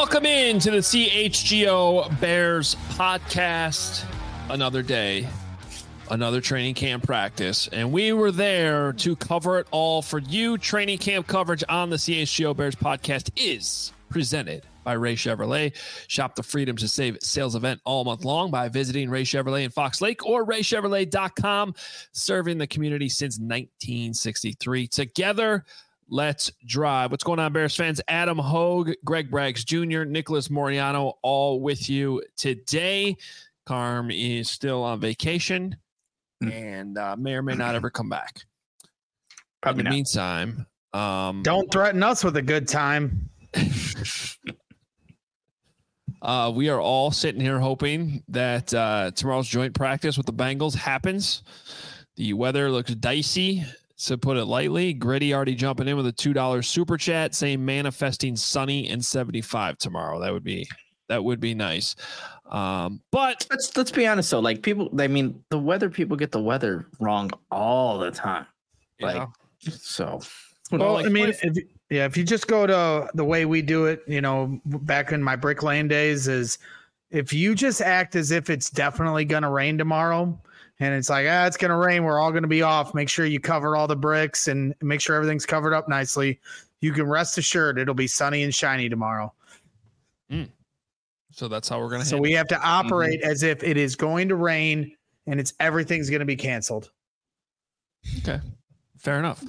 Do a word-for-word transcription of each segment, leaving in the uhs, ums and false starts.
Welcome in to the C H G O Bears podcast. Another day, another training camp practice, and we were there to cover it all for you. Training camp coverage on the C H G O Bears podcast is presented by Ray Chevrolet. Shop the Freedom to Save sales event all month long by visiting Ray Chevrolet in Fox Lake or ray chevrolet dot com, serving the community since nineteen sixty-three. Together, let's drive. What's going on, Bears fans? Adam Hogue, Greg Braggs Junior, Nicholas Moriano, all with you today. Carm is still on vacation and uh, may or may not ever come back. Probably In the not. meantime, um, don't threaten us with a good time. uh, we are all sitting here hoping that uh, tomorrow's joint practice with the Bengals happens. The weather looks dicey, to put it lightly. Gritty already jumping in with a two dollars super chat saying manifesting sunny and seventy-five tomorrow. That would be that would be nice. Um, but Let's let's be honest though. Like people, I mean, the weather people get the weather wrong all the time. you Like know, so. Well, like, I mean, what if, yeah, if you just go to the way we do it, you know, back in my Brick Lane days, is if you just act as if it's definitely going to rain tomorrow, and it's like, ah, it's going to rain, we're all going to be off. Make sure you cover all the bricks and make sure everything's covered up nicely. You can rest assured it'll be sunny and shiny tomorrow. Mm. So that's how we're going to. So we have to operate mm-hmm. as if it is going to rain and it's everything's going to be canceled. Okay, fair enough.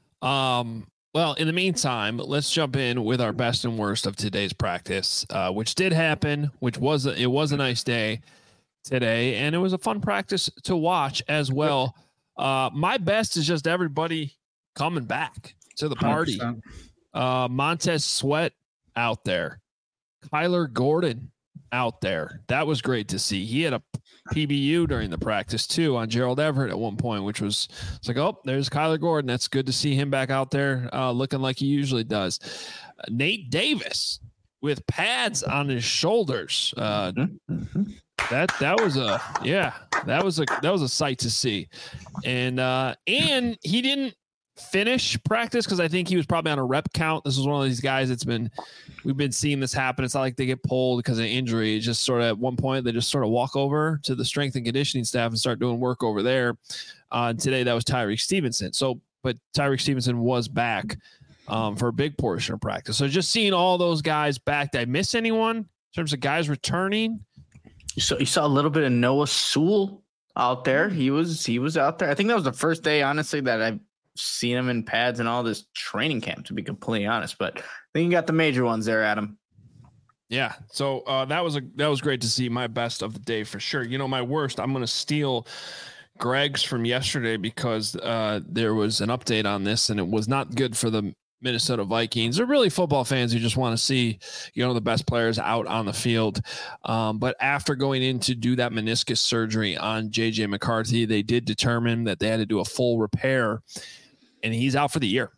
Um, well, in the meantime, let's jump in with our best and worst of today's practice, uh, which did happen, which was a, it was a nice day today, and it was a fun practice to watch as well. Uh, my best is just everybody coming back to the party. one hundred percent. Uh, Montez Sweat out there, Kyler Gordon out there. That was great to see. He had a P B U during the practice too on Gerald Everett at one point, which was it's like, oh, there's Kyler Gordon. That's good to see him back out there uh, looking like he usually does. Uh, Nate Davis with pads on his shoulders. Uh, Mm-hmm. That that was a yeah that was a that was a sight to see, and uh, and he didn't finish practice because I think he was probably on a rep count. This was one of these guys that's been we've been seeing this happen. It's not like they get pulled because of injury. It's just sort of at one point they just sort of walk over to the strength and conditioning staff and start doing work over there. Uh, and today that was Tyreek Stevenson. So, but Tyreek Stevenson was back um, for a big portion of practice. So just seeing all those guys back. Did I miss anyone in terms of guys returning? So you saw a little bit of Noah Sewell out there. He was he was out there. I think that was the first day, honestly, that I've seen him in pads and all this training camp, to be completely honest. But I think you got the major ones there, Adam. Yeah. So uh, that was a that was great to see. My best of the day for sure. You know, my worst, I'm going to steal Greg's from yesterday because uh, there was an update on this and it was not good for the Minnesota Vikings. They're really football fans who just want to see, you know, the best players out on the field. Um, but after going in to do that meniscus surgery on J J McCarthy, they did determine that they had to do a full repair and he's out for the year.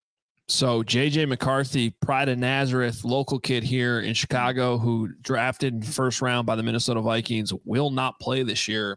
So J J McCarthy, pride of Nazareth, local kid here in Chicago who drafted in first round by the Minnesota Vikings, will not play this year.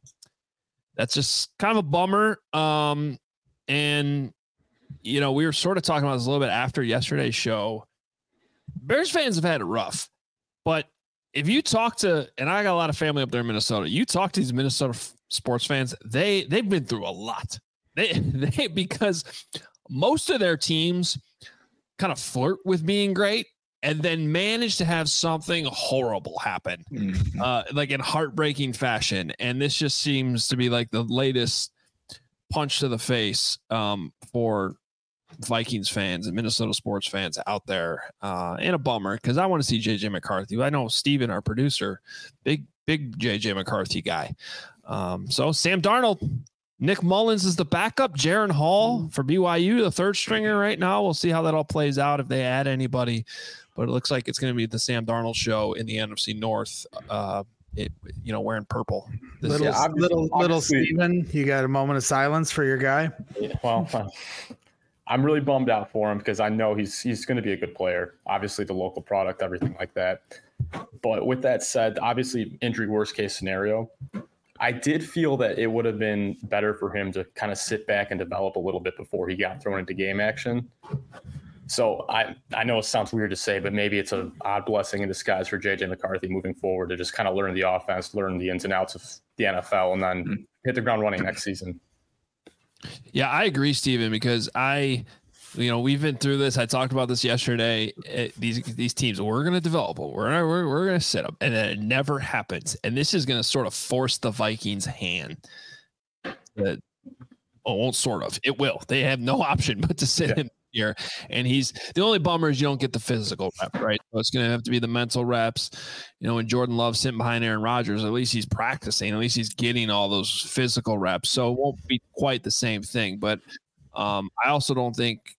That's just kind of a bummer. Um, and you know, we were sort of talking about this a little bit after yesterday's show. Bears fans have had it rough, but if you talk to, and I got a lot of family up there in Minnesota, you talk to these Minnesota f- sports fans, they, they've been through a lot. They, they, because most of their teams kind of flirt with being great and then manage to have something horrible happen, mm-hmm. uh, like in heartbreaking fashion. And this just seems to be like the latest punch to the face um, for Vikings fans and Minnesota sports fans out there, uh, and a bummer because I want to see J J McCarthy. I know Steven, our producer, big, big J J McCarthy guy. Um, so Sam Darnold, Nick Mullins is the backup, Jaron Hall for B Y U, the third stringer right now. We'll see how that all plays out if they add anybody, but it looks like it's going to be the Sam Darnold show in the N F C North. Uh, it, you know, wearing purple. This little, is, little, little Steven, you got a moment of silence for your guy? Yeah, well, I'm really bummed out for him because I know he's he's going to be a good player. Obviously, the local product, everything like that. But with that said, obviously, injury worst case scenario. I did feel that it would have been better for him to kind of sit back and develop a little bit before he got thrown into game action. So I, I know it sounds weird to say, but maybe it's an odd blessing in disguise for J J McCarthy moving forward to just kind of learn the offense, learn the ins and outs of the N F L, and then mm-hmm. hit the ground running next season. Yeah, I agree, Steven, because I, you know, we've been through this. I talked about this yesterday. It, these these teams, we're going to develop them. We're gonna, we're, we're going to sit them, and then it never happens. And this is going to sort of force the Vikings' hand. That, oh, well, sort of. It will. They have no option but to sit yeah. him here. And he's the only bummer is you don't get the physical rep, right? So it's going to have to be the mental reps. You know, when Jordan Love's sitting behind Aaron Rodgers, at least he's practicing. At least he's getting all those physical reps. So it won't be quite the same thing. But um, I also don't think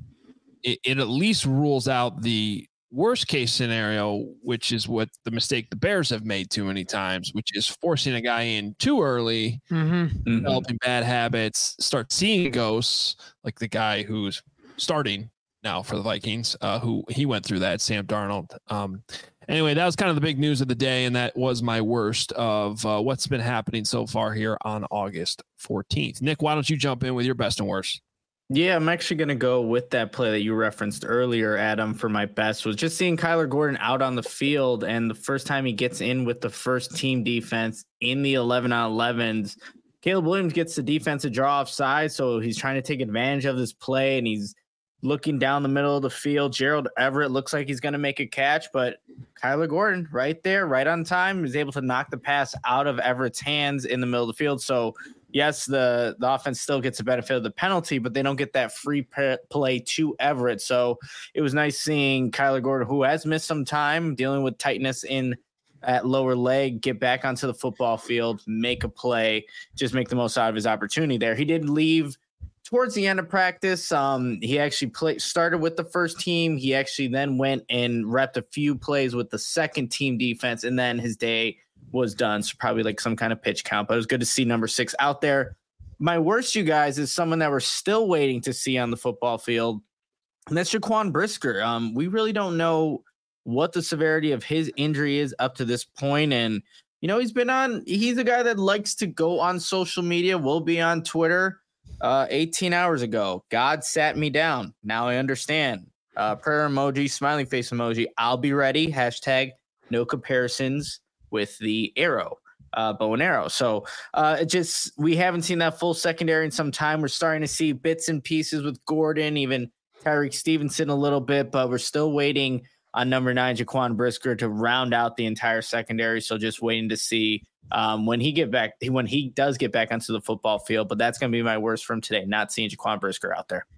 it, it at least rules out the worst case scenario, which is what the mistake the Bears have made too many times, which is forcing a guy in too early, mm-hmm. developing bad habits, start seeing ghosts, like the guy who's starting now for the Vikings, uh, who he went through that, Sam Darnold. Um, anyway, that was kind of the big news of the day, and that was my worst of uh, what's been happening so far here on August fourteenth. Nick, why don't you jump in with your best and worst? Yeah, I'm actually going to go with that play that you referenced earlier, Adam, for my best. Was just seeing Kyler Gordon out on the field, and the first time he gets in with the first team defense in the eleven on elevens, Caleb Williams gets the defensive draw offside, so he's trying to take advantage of this play, and he's looking down the middle of the field. Gerald Everett looks like he's going to make a catch, but Kyler Gordon right there, right on time, is able to knock the pass out of Everett's hands in the middle of the field. So yes, the, the offense still gets the benefit of the penalty, but they don't get that free p- play to Everett. So it was nice seeing Kyler Gordon, who has missed some time dealing with tightness in at lower leg, get back onto the football field, make a play, just make the most out of his opportunity there. He did leave towards the end of practice. Um, he actually play, started with the first team. He actually then went and repped a few plays with the second team defense, and then his day was done. So probably like some kind of pitch count, but it was good to see number six out there. My worst, you guys, is someone that we're still waiting to see on the football field, and that's Jaquan Brisker. Um, we really don't know what the severity of his injury is up to this point. And, you know, he's been on, he's a guy that likes to go on social media, will be on Twitter. Uh, eighteen hours ago, God sat me down. Now I understand. Uh, prayer emoji, smiling face emoji. I'll be ready. Hashtag no comparisons with the arrow, uh, bow and arrow. So uh, it just, we haven't seen that full secondary in some time. We're starting to see bits and pieces with Gordon, even Tyreek Stevenson a little bit, but we're still waiting on number nine, Jaquan Brisker, to round out the entire secondary. So just waiting to see um, when he get back, when he does get back onto the football field. But that's going to be my worst from today, not seeing Jaquan Brisker out there.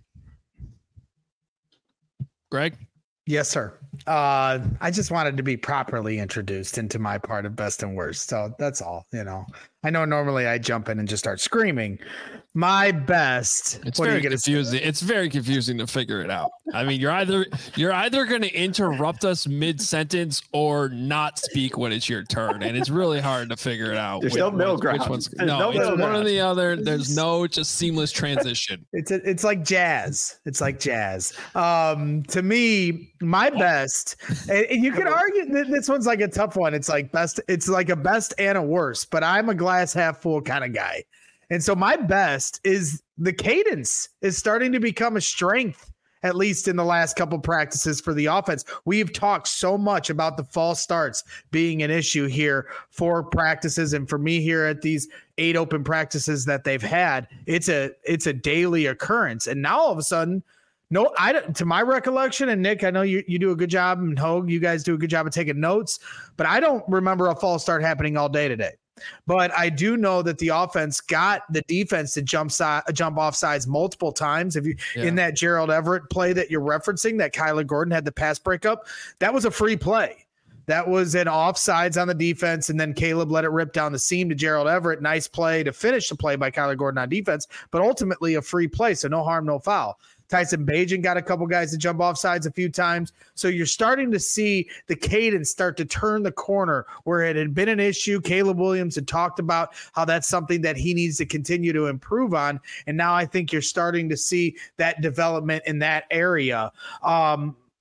Greg? Yes, sir. Uh, I just wanted to be properly introduced into my part of best and worst. So that's all, you know. I know normally I jump in and just start screaming. My best. It's very confusing. It's very confusing to figure it out. I mean, you're either you're either going to interrupt us mid sentence or not speak when it's your turn, and it's really hard to figure it out. There's no middle ground. No, no it's one or the other. There's no just seamless transition. It's a, it's like jazz. It's like jazz. Um, to me, my best, and, and you can argue that this one's like a tough one. It's like best. It's like a best and a worst, but I'm a glass half full kind of guy. And so my best is the cadence is starting to become a strength, at least in the last couple practices for the offense. We've talked so much about the false starts being an issue here for practices. And for me here at these eight open practices that they've had, it's a, it's a daily occurrence. And now all of a sudden, no, I don't, to my recollection, and Nick, I know you, you do a good job, and Hogue, you guys do a good job of taking notes, but I don't remember a false start happening all day today. But I do know that the offense got the defense to jump side, jump off sides multiple times. If you yeah. in that Gerald Everett play that you're referencing, that Kyler Gordon had the pass breakup, that was a free play. That was an offsides on the defense, and then Caleb let it rip down the seam to Gerald Everett. Nice play to finish the play by Kyler Gordon on defense, but ultimately a free play, so no harm, no foul. Tyson Bagent got a couple guys to jump off sides a few times. So you're starting to see the cadence start to turn the corner where it had been an issue. Caleb Williams had talked about how that's something that he needs to continue to improve on. And now I think you're starting to see that development in that area. Um,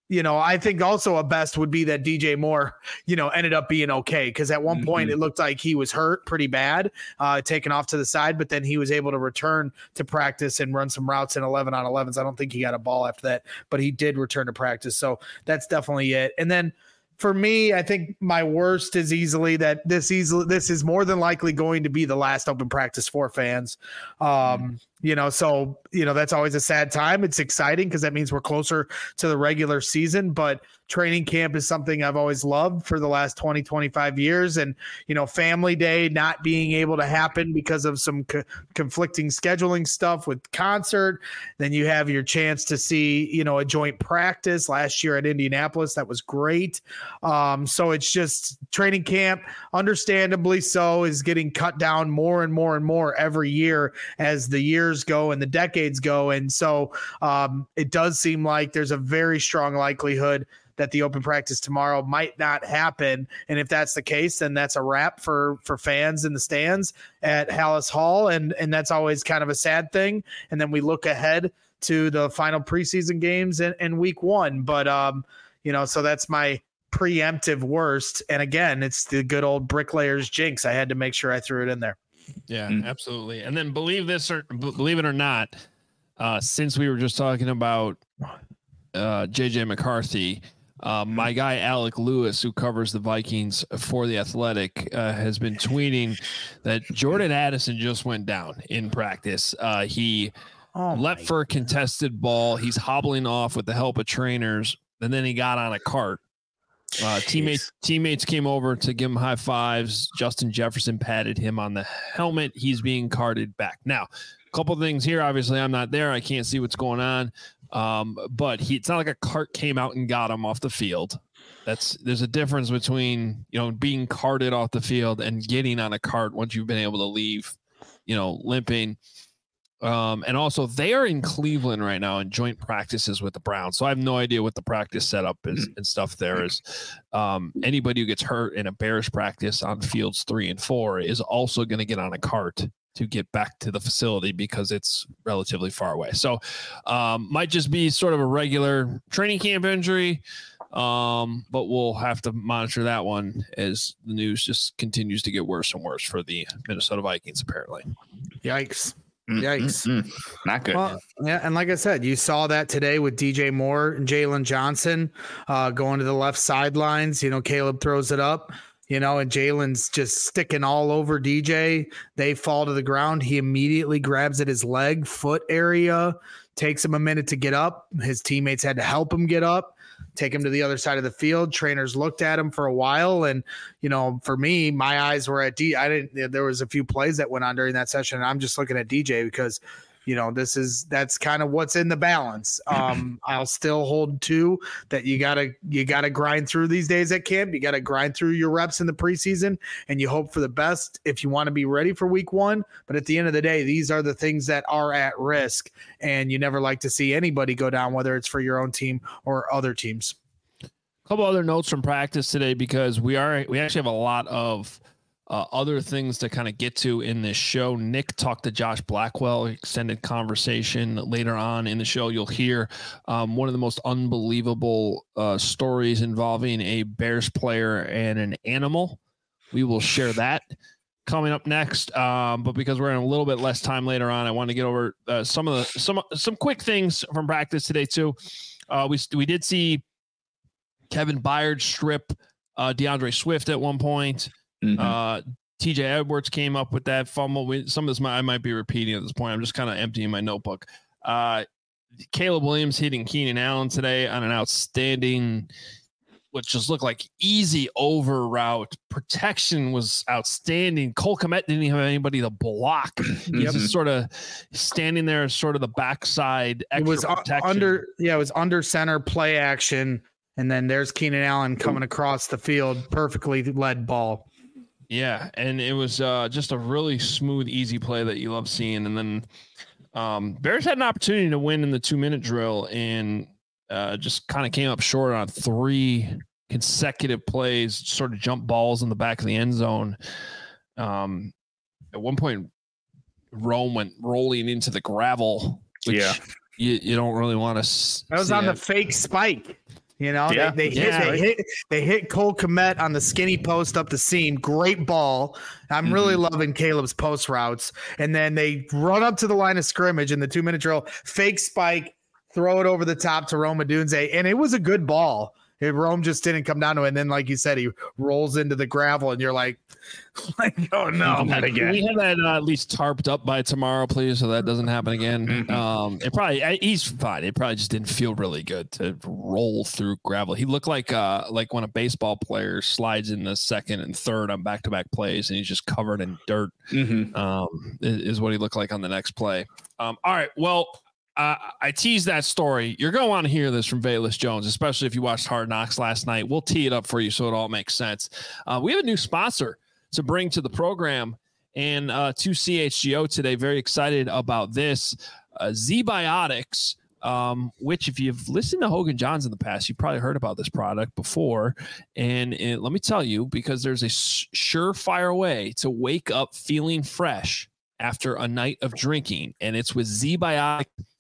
you know, I think also a best would be that D J Moore, you know, ended up being okay. Cause at one mm-hmm. point it looked like he was hurt pretty bad, uh, taken off to the side, but then he was able to return to practice and run some routes in eleven on elevens. I don't think he got a ball after that, but he did return to practice. So that's definitely it. And then for me, I think my worst is easily that this easily, this is more than likely going to be the last open practice for fans. Um, mm-hmm. You know, so, you know, that's always a sad time. It's exciting because that means we're closer to the regular season, but training camp is something I've always loved for the last twenty, twenty-five years. And, you know, family day not being able to happen because of some co- conflicting scheduling stuff with concert. Then you have your chance to see, you know, a joint practice last year at Indianapolis. That was great. Um, so it's just training camp, understandably so, is getting cut down more and more and more every year as the years go and the decades go. And so um, it does seem like there's a very strong likelihood that the open practice tomorrow might not happen. And if that's the case, then that's a wrap for, for fans in the stands at Hallis Hall. And, and that's always kind of a sad thing. And then we look ahead to the final preseason games in, in week one. But, um, you know, so that's my preemptive worst. And again, it's the good old bricklayers jinx. I had to make sure I threw it in there. Yeah, mm. absolutely. And then believe this or believe it or not, uh, since we were just talking about uh, J J McCarthy, uh, my guy Alec Lewis, who covers the Vikings for The Athletic, uh, has been tweeting that Jordan Addison just went down in practice. Uh, he oh leapt for a contested ball. He's hobbling off with the help of trainers, and then he got on a cart. Uh, teammates teammates came over to give him high fives. Justin Jefferson patted him on the helmet. He's being carted back. Now, a couple of things here. Obviously, I'm not there. I can't see what's going on. Um, but he, it's not like a cart came out and got him off the field. That's there's a difference between, you know, being carted off the field and getting on a cart once you've been able to leave, you know, limping. Um, and also they are in Cleveland right now in joint practices with the Browns. So I have no idea what the practice setup is and stuff there is. Um, anybody who gets hurt in a Bears practice on fields three and four is also going to get on a cart to get back to the facility because it's relatively far away. So um, might just be sort of a regular training camp injury. Um, but we'll have to monitor that one as the news just continues to get worse and worse for the Minnesota Vikings, apparently. Yikes. Yikes. Mm-mm. Not good. Well, yeah, and like I said, you saw that today with D J Moore and Jalen Johnson uh, going to the left sidelines. You know, Caleb throws it up, you know, and Jalen's just sticking all over D J. They fall to the ground. He immediately grabs at his leg, foot area, takes him a minute to get up. His teammates had to help him get up, take him to the other side of the field. Trainers looked at him for a while. And, you know, for me, my eyes were at D. I didn't, there was a few plays that went on during that session. And I'm just looking at D J because, you know, this is, that's kind of what's in the balance. Um, I'll still hold to that. You gotta, you gotta grind through these days at camp. You gotta grind through your reps in the preseason and you hope for the best if you want to be ready for week one. But at the end of the day, these are the things that are at risk and you never like to see anybody go down, whether it's for your own team or other teams. A couple other notes from practice today, because we are, we actually have a lot of Uh, other things to kind of get to in this show. Nick talked to Josh Blackwell, extended conversation. Later on in the show, you'll hear um, one of the most unbelievable uh, stories involving a Bears player and an animal. We will share that coming up next. Um, but because we're in a little bit less time later on, I want to get over uh, some of the some some quick things from practice today too. Uh, we we did see Kevin Byard strip uh, DeAndre Swift at one point. Mm-hmm. Uh, T J Edwards came up with that fumble. We, some of this might, I might be repeating at this point. I'm just kind of emptying my notebook. Uh, Caleb Williams hitting Keenan Allen today on an outstanding, what just looked like easy over route. Protection was outstanding. Cole Kmet didn't even have anybody to block. He's yep. just sort of standing there as sort of the backside. Extra it was protection. under, yeah, it was under center play action. And then there's Keenan Allen coming across the field, perfectly led ball. Yeah, and it was uh, just a really smooth, easy play that you love seeing. And then um, Bears had an opportunity to win in the two-minute drill and uh, just kind of came up short on three consecutive plays, sort of jump balls in the back of the end zone. Um, at one point, Rome went rolling into the gravel, which yeah. you, you don't really want to That was on that. the fake spike. You know, Yeah. they, they Yeah. hit they hit they hit Cole Kmet on the skinny post up the seam. Great ball. I'm really Mm-hmm. loving Caleb's post routes. And then they run up to the line of scrimmage in the two minute drill, fake spike, throw it over the top to Rome Odunze, and it was a good ball. It, Rome just didn't come down to it. And then, like you said, he rolls into the gravel, and you're like, like oh no, not again. We have that uh, at least tarped up by tomorrow, please, so that doesn't happen again. Mhm. Um, it probably I- he's fine. It probably just didn't feel really good to roll through gravel. He looked like uh like when a baseball player slides in the second and third on back to back plays, and he's just covered in dirt. Mm-hmm. Um, is, is what he looked like on the next play. Um, all right, well. Uh, I teased that story. You're going to want to hear this from Velus Jones, especially if you watched Hard Knocks last night. We'll tee it up for you so it all makes sense. Uh, we have a new sponsor to bring to the program and uh, to C H G O today. Very excited about this. Uh, Z-Biotics, um, which if you've listened to Hogan Johns in the past, you've probably heard about this product before. And it, let me tell you, because there's a surefire way to wake up feeling fresh after a night of drinking, and it's with Z-Biotic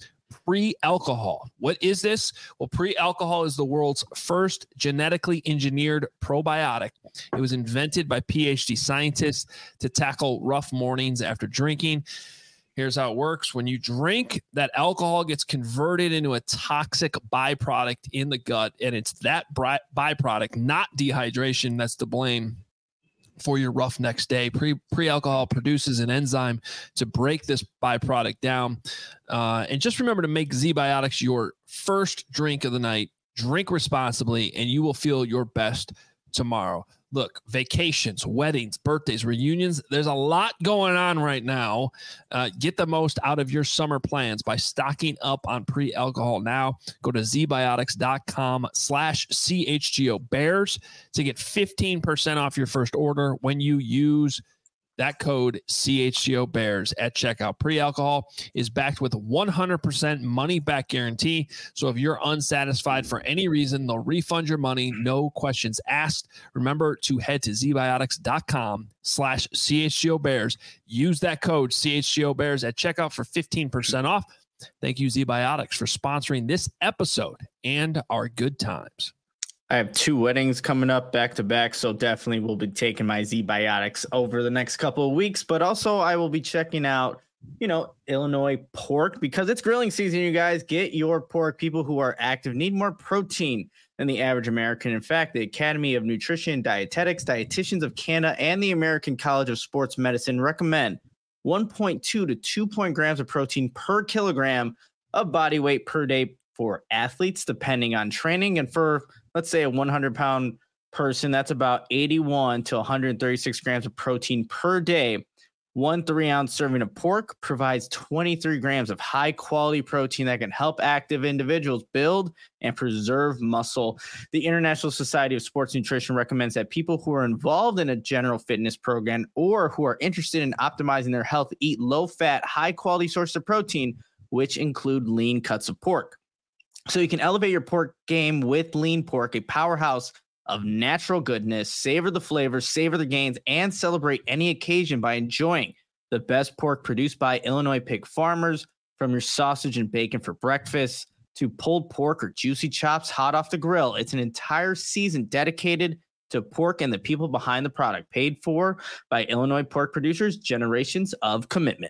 pre-alcohol. What is this? Well, pre-alcohol is the world's first genetically engineered probiotic. It was invented by P H D scientists to tackle rough mornings after drinking. Here's how it works. When you drink, that alcohol gets converted into a toxic byproduct in the gut, and it's that by- byproduct, not dehydration, that's to blame for your rough next day. Pre pre-alcohol produces an enzyme to break this byproduct down. Uh, and just remember to make Z-Biotics your first drink of the night. Drink responsibly, and you will feel your best tomorrow. Look, vacations, weddings, birthdays, reunions, there's a lot going on right now. Uh, get the most out of your summer plans by stocking up on pre-alcohol now. Go to zbiotics.com slash CHGO Bears to get fifteen percent off your first order when you use that code C H G O Bears at checkout. Pre-alcohol is backed with a one hundred percent money back guarantee. So if you're unsatisfied for any reason, they'll refund your money. No questions asked. Remember to head to zbiotics.com slash CHGO Bears. Use that code C H G O Bears at checkout for fifteen percent off. Thank you, Z-Biotics, for sponsoring this episode and our good times. I have two weddings coming up back to back, so definitely will be taking my Z-Biotics over the next couple of weeks. But also I will be checking out, you know, Illinois pork because it's grilling season, you guys. Get your pork. People who are active need more protein than the average American. In fact, the Academy of Nutrition and Dietetics, Dietitians of Canada, and the American College of Sports Medicine recommend one point two to two point grams of protein per kilogram of body weight per day for athletes, depending on training. And for, let's say, a one hundred pound person, that's about eighty-one to one hundred thirty-six grams of protein per day. One three ounce serving of pork provides twenty-three grams of high quality protein that can help active individuals build and preserve muscle. The International Society of Sports Nutrition recommends that people who are involved in a general fitness program or who are interested in optimizing their health eat low fat, high quality sources of protein, which include lean cuts of pork. So you can elevate your pork game with lean pork, a powerhouse of natural goodness. Savor the flavors, savor the gains, and celebrate any occasion by enjoying the best pork produced by Illinois pig farmers. From your sausage and bacon for breakfast to pulled pork or juicy chops hot off the grill, it's an entire season dedicated to pork and the people behind the product, paid for by Illinois pork producers, generations of commitment.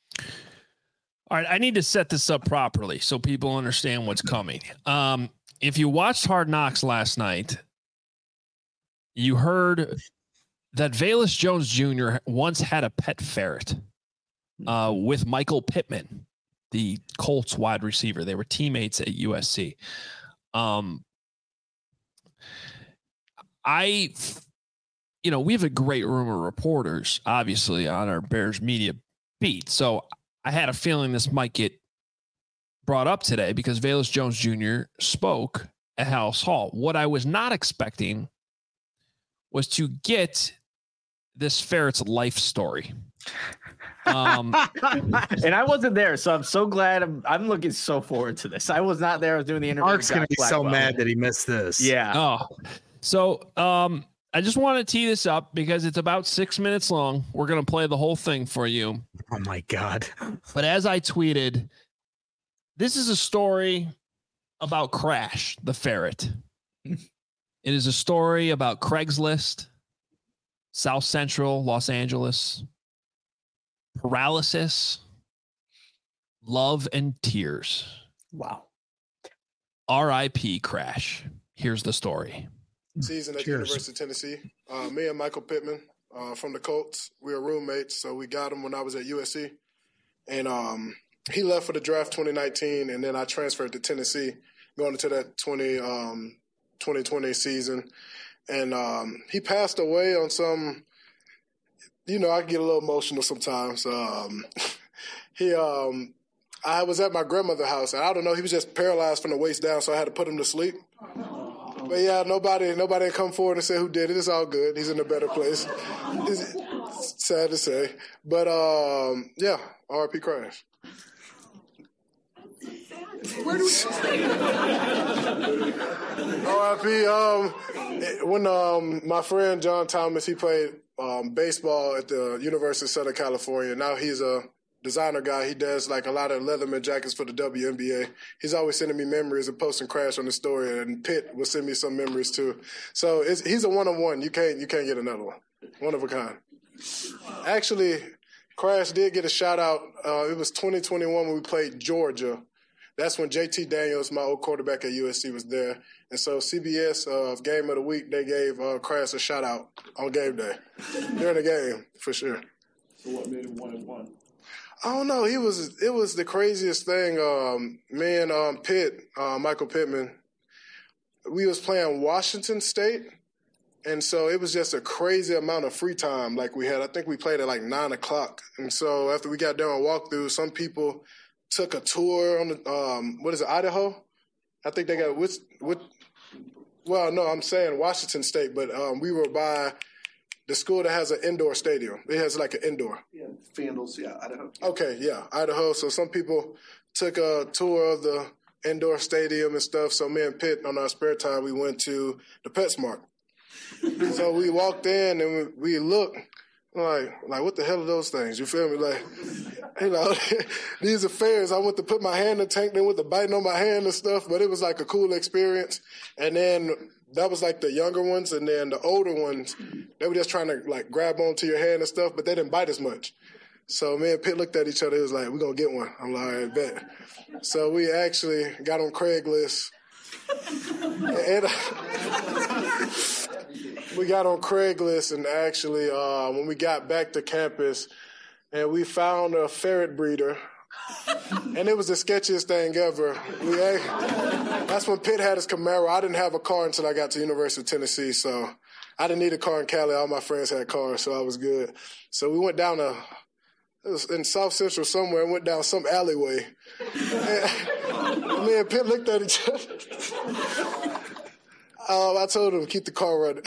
All right, I need to set this up properly so people understand what's coming. Um, if you watched Hard Knocks last night, you heard that Velus Jones Junior once had a pet ferret uh, with Michael Pittman, the Colts wide receiver. They were teammates at U S C. Um, I, you know, we have a great room of reporters, obviously, on our Bears media beat. So I had a feeling this might get brought up today because Velus Jones Junior spoke at House Hall. What I was not expecting was to get this ferret's life story. Um, and I wasn't there, so I'm so glad. I'm, I'm looking so forward to this. I was not there. I was doing the interview. Mark's going to be so mad that he missed this. Yeah. Oh, so um, I just want to tee this up because it's about six minutes long. We're going to play the whole thing for you. Oh, my God. But as I tweeted, this is a story about Crash, the ferret. It is a story about Craigslist, South Central Los Angeles, paralysis, love, and tears. Wow. R I P Crash. Here's the story. Season at the Cheers. University of Tennessee. Uh, me and Michael Pittman uh, from the Colts, we were roommates, so we got him when I was at U S C. And um, he left for the draft twenty nineteen, and then I transferred to Tennessee going into that twenty, um, twenty twenty season. And um, he passed away on some, you know, I get a little emotional sometimes. Um, he, um, I was at my grandmother's house, and I don't know, he was just paralyzed from the waist down, so I had to put him to sleep. But yeah, nobody, nobody had come forward and said who did it. It's all good. He's in a better place. It's sad to say, but um, yeah, R I P Crash. Where do we R I P Um, when um, my friend John Thomas, he played um, baseball at the University of Southern California. Now he's a designer guy. He does like a lot of Leatherman jackets for the W N B A. He's always sending me memories and posting Crash on the story, and Pitt will send me some memories too. So it's, he's a one of one. You can't you can't get another one. One of a kind. Actually, Crash did get a shout out. Uh, it was twenty twenty-one when we played Georgia. That's when J T Daniels, my old quarterback at U S C, was there. And so C B S uh, Game of the Week, they gave uh, Crash a shout out on game day during the game for sure. So what made him one and one? I don't know. He was. It was the craziest thing. Um, me and um, Pitt, uh, Michael Pittman, we was playing Washington State, and so it was just a crazy amount of free time. Like we had, I think we played at like nine o'clock, and so after we got done with walkthrough, some people took a tour on the um, what is it, Idaho? I think they got which which. Well, no, I'm saying Washington State, but um, we were by the school that has an indoor stadium. It has like an indoor. Yeah, Vandals, yeah, Idaho. Okay, yeah, Idaho. So some people took a tour of the indoor stadium and stuff. So me and Pitt, on our spare time, we went to the PetSmart. So we walked in and we, we looked like, like what the hell are those things? You feel me? Like, you know, these are fairs. I went to put my hand in the tank, then went to biting on my hand and stuff. But it was like a cool experience. And then that was like the younger ones, and then the older ones, they were just trying to like grab onto your hand and stuff, but they didn't bite as much. So me and Pitt looked at each other. It was like, we're going to get one. I'm like, all right, bet. So we actually got on Craigslist. and, uh, we got on Craigslist, and actually uh, when we got back to campus, and we found a ferret breeder. And it was the sketchiest thing ever. We, that's when Pitt had his Camaro. I didn't have a car until I got to University of Tennessee, so I didn't need a car in Cali. All my friends had cars, so I was good. So we went down a, it was in South Central somewhere, and went down some alleyway. And me and Pitt looked at each other. Um, I told him to keep the car running.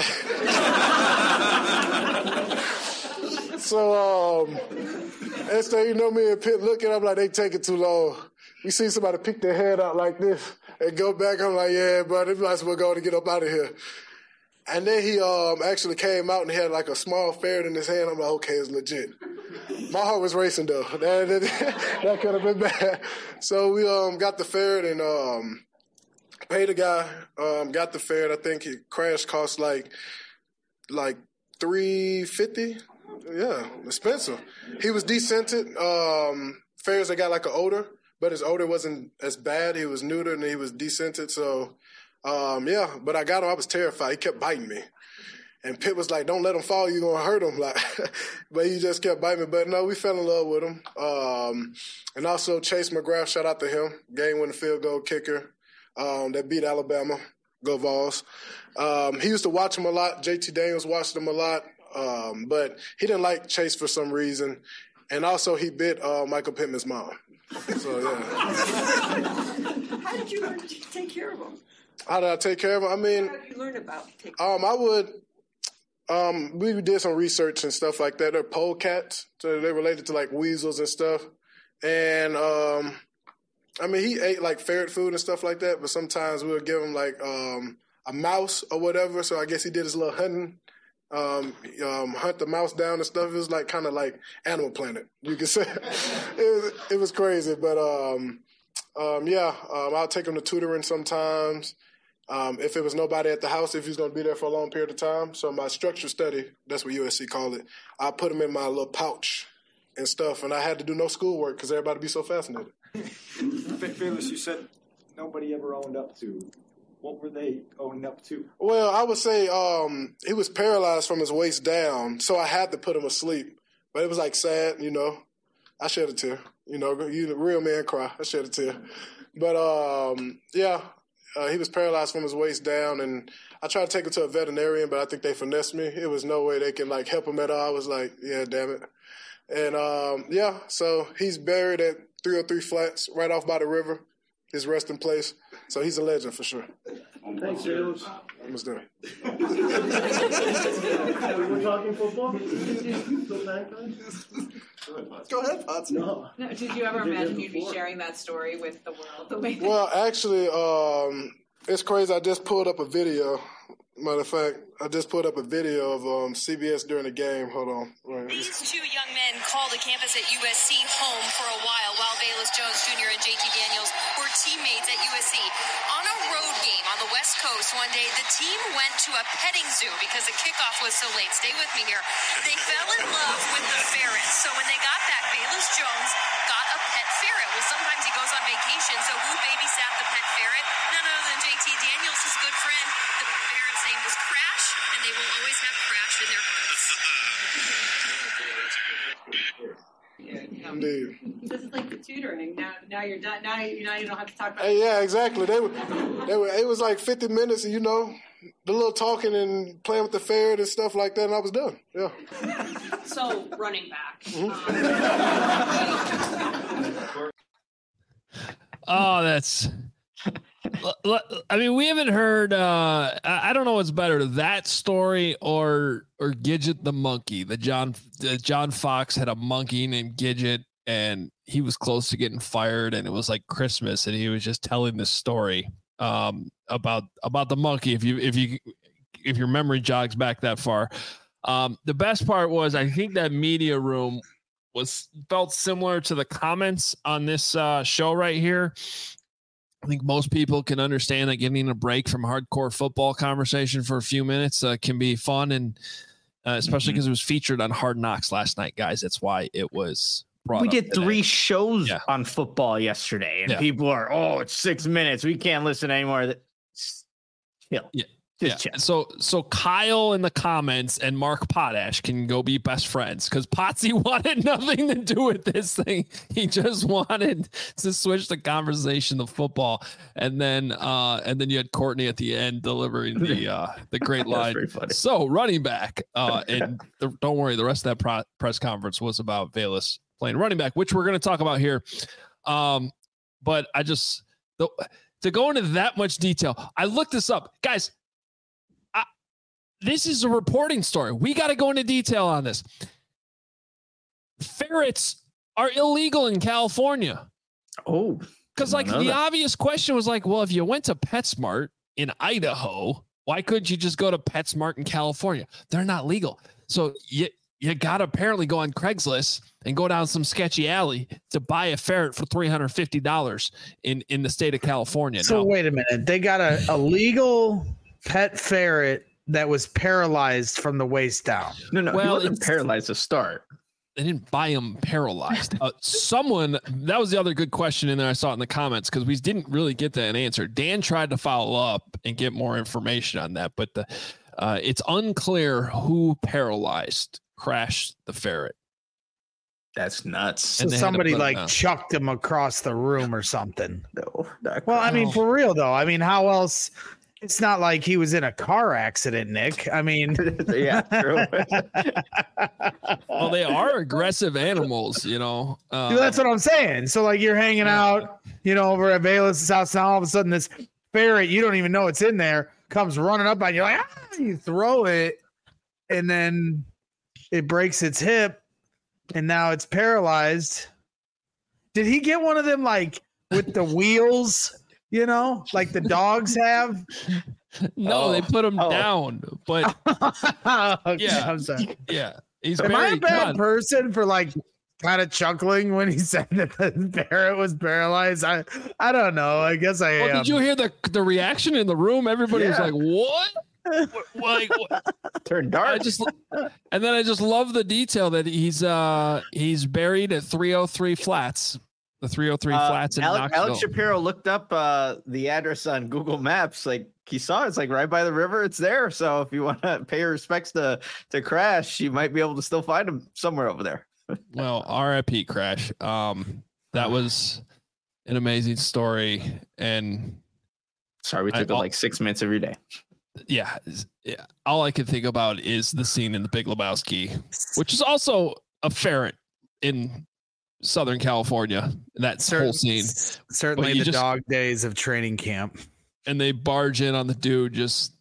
so, um, and so, you know, me and Pitt looking, I'm like, they taking too long. We see somebody pick their head out like this and go back. I'm like, yeah, bro, they might as well go to get up out of here. And then he um, actually came out and he had like a small ferret in his hand. I'm like, okay, it's legit. My heart was racing though. That, that, that could have been bad. So we um, got the ferret and um, paid the guy, um, got the ferret. I think it Crash cost like like three fifty. Yeah, expensive. He was descented. Um, ferrets that got like an odor, but his odor wasn't as bad. He was neutered and he was descented. So, um, yeah, but I got him. I was terrified. He kept biting me. And Pitt was like, don't let him fall. You're going to hurt him. Like, but he just kept biting me. But, no, we fell in love with him. Um, and also Chase McGrath, shout out to him, game-winning field goal kicker um, that beat Alabama. Go Vols. Um, he used to watch him a lot. J T Daniels watched him a lot. Um, but he didn't like Chase for some reason. And also he bit uh, Michael Pittman's mom. So, yeah. How did you learn to take care of them? How did I take care of him? I mean, How did you learn about taking um, I would, um, we did some research and stuff like that. They're polecats, so they're related to like weasels and stuff. And, um, I mean, he ate like ferret food and stuff like that, but sometimes we would give him like um, a mouse or whatever. So I guess he did his little hunting. Um, um, hunt the mouse down and stuff. It was like kind of like Animal Planet, you could say. it was it was crazy, but um, um, yeah, um, I'll take him to tutoring sometimes. Um, if it was nobody at the house, if he was going to be there for a long period of time. So my structured study, that's what U S C called it, I put them in my little pouch and stuff, and I had to do no schoolwork because everybody be so fascinated. Fearless, you said nobody ever owned up to. What were they owning up to? Well, I would say um, he was paralyzed from his waist down, so I had to put him asleep. But it was like sad, you know. I shed a tear. You know, you the real man cry. I shed a tear. But um, yeah. Uh, he was paralyzed from his waist down, and I tried to take him to a veterinarian, but I think they finessed me. It was no way they can, like, help him at all. I was like, yeah, damn it. And, um, yeah, so he's buried at three oh three Flats, right off by the river, his resting place. So he's a legend for sure. Thanks, James. Almost done. We're talking football? Go ahead, Potts. No. No, did you ever imagine you'd be sharing that story with the world the way that Well, actually, um, it's crazy. I just pulled up a video. Matter of fact, I just pulled up a video of um, C B S during the game. Hold on. Right. These two young men called the campus at U S C home for a while, while Velus Jones Junior and J T Daniels were teammates at U S C. On a road game on the West Coast one day, the team went to a petting zoo because the kickoff was so late. Stay with me here. They fell in love with the ferrets. So when they got back, Velus Jones got a pet ferret. Well, sometimes he goes on vacation, so who babysat the pet ferret? None other than J T Daniels, his good friend. The ferret's name was Crash, and they will always have Crash in their hearts. Indeed. this is like the tutoring. Now, now you're done. Now you now you don't have to talk about. Hey, yeah, exactly. They were, they were. It was like fifty minutes, and you know, the little talking and playing with the ferret and stuff like that, and I was done. Yeah. So running back. Oh, that's. I mean, we haven't heard. Uh, I don't know what's better, that story or or Gidget the monkey. The John the John Fox had a monkey named Gidget, and he was close to getting fired, and it was like Christmas, and he was just telling this story um, about about the monkey. If you if you if your memory jogs back that far, um, the best part was I think that media room was felt similar to the comments on this uh, show right here. I think most people can understand that getting a break from hardcore football conversation for a few minutes uh, can be fun, and uh, especially because mm-hmm. it was featured on Hard Knocks last night, guys. That's why it was brought We up did today. three shows Yeah. on football yesterday, and Yeah. people are, oh, it's six minutes. We can't listen anymore. That chill. Yeah. Just Yeah. chill. So so Kyle in the comments and Mark Potash can go be best friends because Potsy wanted nothing to do with this thing. He just wanted to switch the conversation to football. And then uh and then you had Courtney at the end delivering the uh the great That's line. very funny. So running back. Uh and the, don't worry, the rest of that pro- press conference was about Velus playing running back, which we're gonna talk about here. Um, but I just the, to go into that much detail, I looked this up. Guys. This is a reporting story. We got to go into detail on this. Ferrets are illegal in California. Oh, Because like the that. obvious question was like, well, if you went to PetSmart in Idaho, why couldn't you just go to PetSmart in California? They're not legal. So you, you got to apparently go on Craigslist and go down some sketchy alley to buy a ferret for three hundred fifty dollars in, in the state of California. So Now, wait a minute. They got a, a legal pet ferret that was paralyzed from the waist down. No, no, Well, he wasn't it's- paralyzed to start. they didn't buy him paralyzed. Uh, someone, that was the other good question in there. I saw it in the comments because we didn't really get that answer. Dan tried to follow up and get more information on that, but the, uh, it's unclear who paralyzed Crash the ferret. That's nuts. So And they had to somebody put him like down. chucked him across the room or something. No, not Well, I mean, No. for real though. I mean, how else? It's not like he was in a car accident, Nick. I mean, yeah, true. Well, they are aggressive animals, you know. Uh, that's what I'm saying. So like you're hanging out, you know, over at Bayless's house, and all of a sudden this ferret, you don't even know it's in there, comes running up on you, like ah! You throw it, and then it breaks its hip, and now it's paralyzed. Did he get one of them like with the wheels? You know, like the dogs have. no, Oh. they put him Oh. down, but Okay, Yeah. I'm sorry. yeah, he's Am I very a bad done. person for like kind of chuckling when he said that the Barrett was paralyzed. I I don't know. I guess I. Well, um, did you hear the the reaction in the room? Everybody Yeah. was like, "What?" What- like, what? Turned I dark. just and then I just love the detail that he's uh he's buried at three oh three Flats, the three oh three Uh, Flats in Alex, Knoxville. Alex Shapiro looked up uh, the address on Google Maps. Like he saw it's like right by the river. It's there. So if you want to pay your respects to to Crash, you might be able to still find him somewhere over there. Well, R I P Crash. Um, that was an amazing story, and Sorry, we I- took up I'll- like six minutes of your day. yeah, is- yeah, all I can think about is the scene in The Big Lebowski, which is also a ferret in Southern California. That Certain- whole scene, certainly But you the just- dog days of training camp. and they barge in on the dude just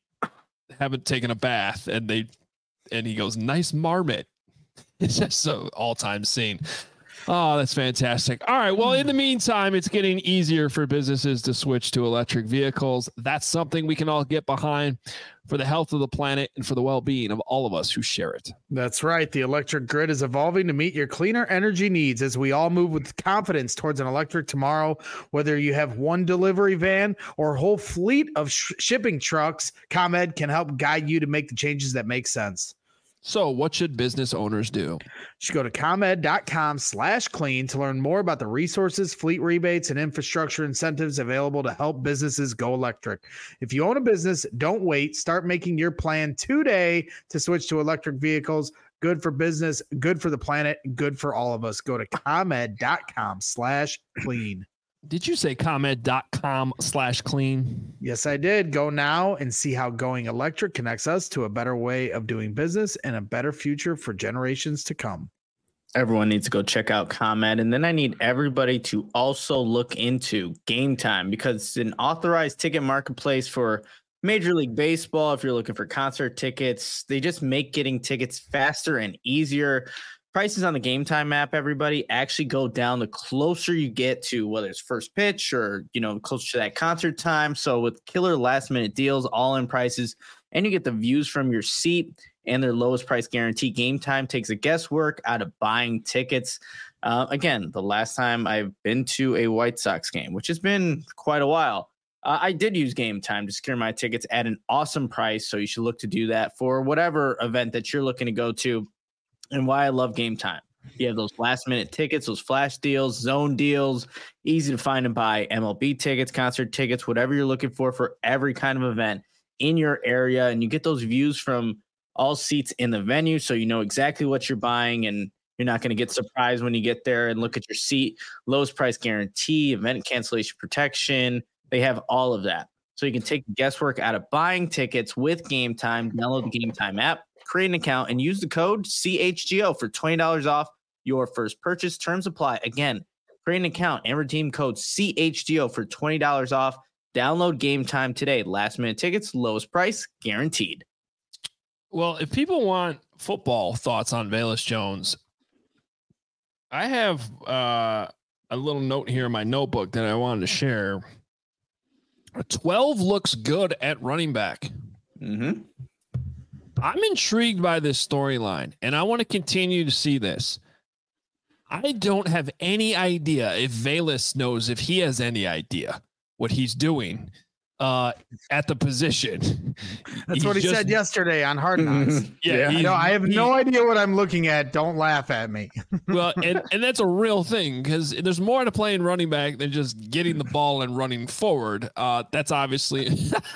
haven't taken a bath, and they and he goes, "Nice marmot." It's just an all-time scene. Oh, that's fantastic. All right. Well, in the meantime, it's getting easier for businesses to switch to electric vehicles. That's something we can all get behind for the health of the planet and for the well-being of all of us who share it. That's right. The electric grid is evolving to meet your cleaner energy needs as we all move with confidence towards an electric tomorrow. Whether you have one delivery van or a whole fleet of sh- shipping trucks, ComEd can help guide you to make the changes that make sense. So what should business owners do? You should go to ComEd.com slash clean to learn more about the resources, fleet rebates, and infrastructure incentives available to help businesses go electric. If you own a business, don't wait. Start making your plan today to switch to electric vehicles. Good for business, good for the planet, good for all of us. Go to ComEd.com slash clean. Did you say ComEd.com slash clean? Yes, I did. Go now and see how going electric connects us to a better way of doing business and a better future for generations to come. Everyone needs to go check out ComEd. And then I need everybody to also look into Game Time because it's an authorized ticket marketplace for Major League Baseball. If you're looking for concert tickets, they just make getting tickets faster and easier. Prices on the Game Time app, everybody, actually go down the closer you get to whether it's first pitch or, you know, closer to that concert time. So with killer last minute deals, all in prices, and you get the views from your seat and their lowest price guarantee, Game Time takes the guesswork out of buying tickets. Uh, again, the last time I've been to a White Sox game, which has been quite a while, uh, I did use Game Time to secure my tickets at an awesome price. So you should look to do that for whatever event that you're looking to go to. And why I love Game Time. You have those last minute tickets, those flash deals, zone deals, easy to find and buy M L B tickets, concert tickets, whatever you're looking for for every kind of event in your area. And you get those views from all seats in the venue. So you know exactly what you're buying and you're not going to get surprised when you get there and look at your seat. Lowest price guarantee, event cancellation protection. They have all of that. So you can take the guesswork out of buying tickets with Game Time. Download the Game Time app, create an account, and use the code C H G O for twenty dollars off your first purchase. Terms apply. Again, create an account and redeem code C H G O for twenty dollars off. Download Game Time today. Last minute tickets, lowest price guaranteed. Well, if people want football thoughts on Velus Jones, I have uh, a little note here in my notebook that I wanted to share. twelve looks good at running back. Mm-hmm. I'm intrigued by this storyline, and I want to continue to see this. I don't have any idea if Velus knows if he has any idea what he's doing uh, at the position. That's He's what he just- said yesterday on Hard Knocks. Yeah, I he's- know. I have he- no idea what I'm looking at. Don't laugh at me. Well, and, and that's a real thing because there's more to playing running back than just getting the ball and running forward. Uh, that's obviously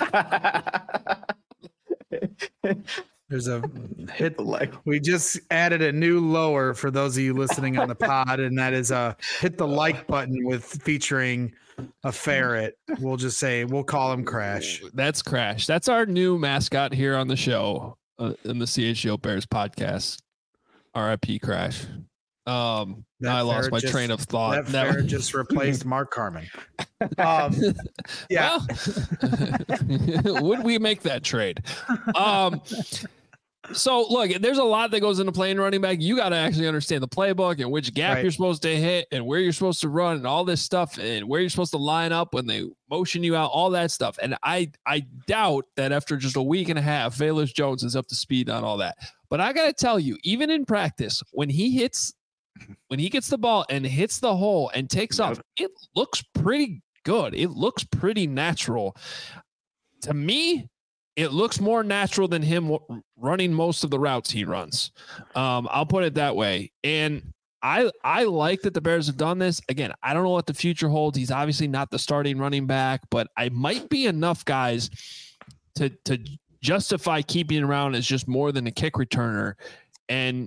There's a hit. Like, We just added a new lower for those of you listening on the pod, and that is a hit the like button with featuring a ferret. We'll just say we'll call him Crash. that's Crash. That's our new mascot here on the show uh, in the C H G O Bears podcast. R I P Crash. Um, That I lost ferret my just- train of thought. That That- ferret just replaced Mark Carmen. Um, yeah. Well, would we make that trade? Um, so look, there's a lot that goes into playing running back. You got to actually understand the playbook and which gap Right. you're supposed to hit and where you're supposed to run and all this stuff and where you're supposed to line up when they motion you out, all that stuff. And I, I doubt that after just a week and a half, Velus Jones is up to speed on all that. But I got to tell you, even in practice, when he hits when he gets the ball and hits the hole and takes off, it looks pretty good. It looks pretty natural. To me, it looks more natural than him w- running most of the routes he runs. Um, I'll put it that way. And I I like that the Bears have done this. Again, I don't know what the future holds. He's obviously not the starting running back, but I might be enough guys to to justify keeping around as just more than a kick returner and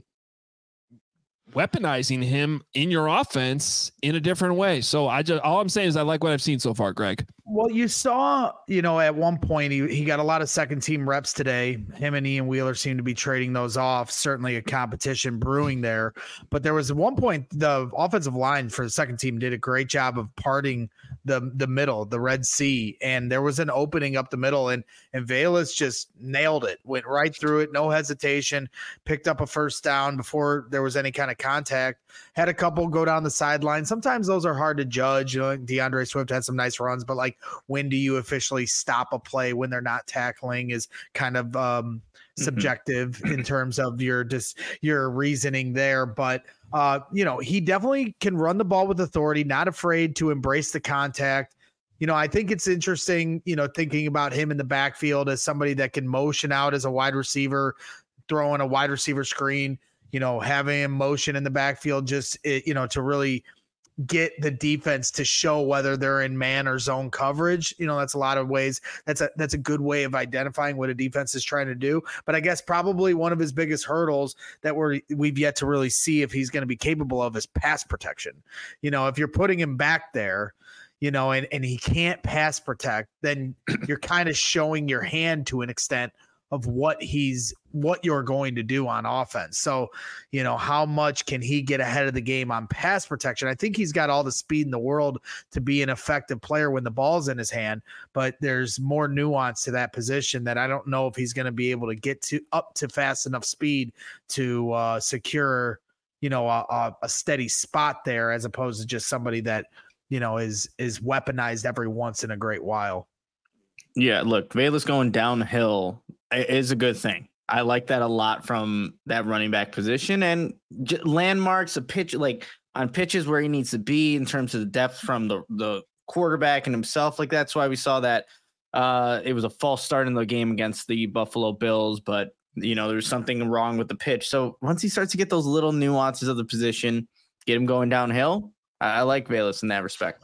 weaponizing him in your offense in a different way. So I just all I'm saying is I like what I've seen so far, Greg. Well, you saw, you know, at one point he, he got a lot of second team reps today. Him and Ian Wheeler seem to be trading those off. Certainly a competition brewing there. But there was one point the offensive line for the second team did a great job of parting the the middle, the Red Sea. And there was an opening up the middle and and Velus just nailed it, went right through it, no hesitation, picked up a first down before there was any kind of contact. Had a couple go down the sideline. Sometimes those are hard to judge. You know, DeAndre Swift had some nice runs, but like, when do you officially stop a play when they're not tackling is kind of um, subjective mm-hmm. in terms of your just your reasoning there. But uh, you know, he definitely can run the ball with authority, not afraid to embrace the contact. You know, I think it's interesting, you know, thinking about him in the backfield as somebody that can motion out as a wide receiver, throwing a wide receiver screen, you know, having him motion in the backfield, just, you know, to really get the defense to show whether they're in man or zone coverage. You know, that's a lot of ways. That's a, that's a good way of identifying what a defense is trying to do. But I guess probably one of his biggest hurdles that we're, we've yet to really see if he's going to be capable of is pass protection. You know, if you're putting him back there, you know, and, and he can't pass protect, then you're kind of showing your hand to an extent of what he's, what you're going to do on offense. So, you know, how much can he get ahead of the game on pass protection? I think he's got all the speed in the world to be an effective player when the ball's in his hand, but there's more nuance to that position that I don't know if he's going to be able to get to up to fast enough speed to uh, secure, you know, a, a steady spot there, as opposed to just somebody that, you know, is, is weaponized every once in a great while. Yeah, look, Velus going downhill is a good thing. I like that a lot from that running back position, and j- landmarks, a pitch like on pitches where he needs to be in terms of the depth from the, the quarterback and himself. Like that's why we saw that uh, it was a false start in the game against the Buffalo Bills, but you know, there's something wrong with the pitch. So once he starts to get those little nuances of the position, get him going downhill, I, I like Velus in that respect.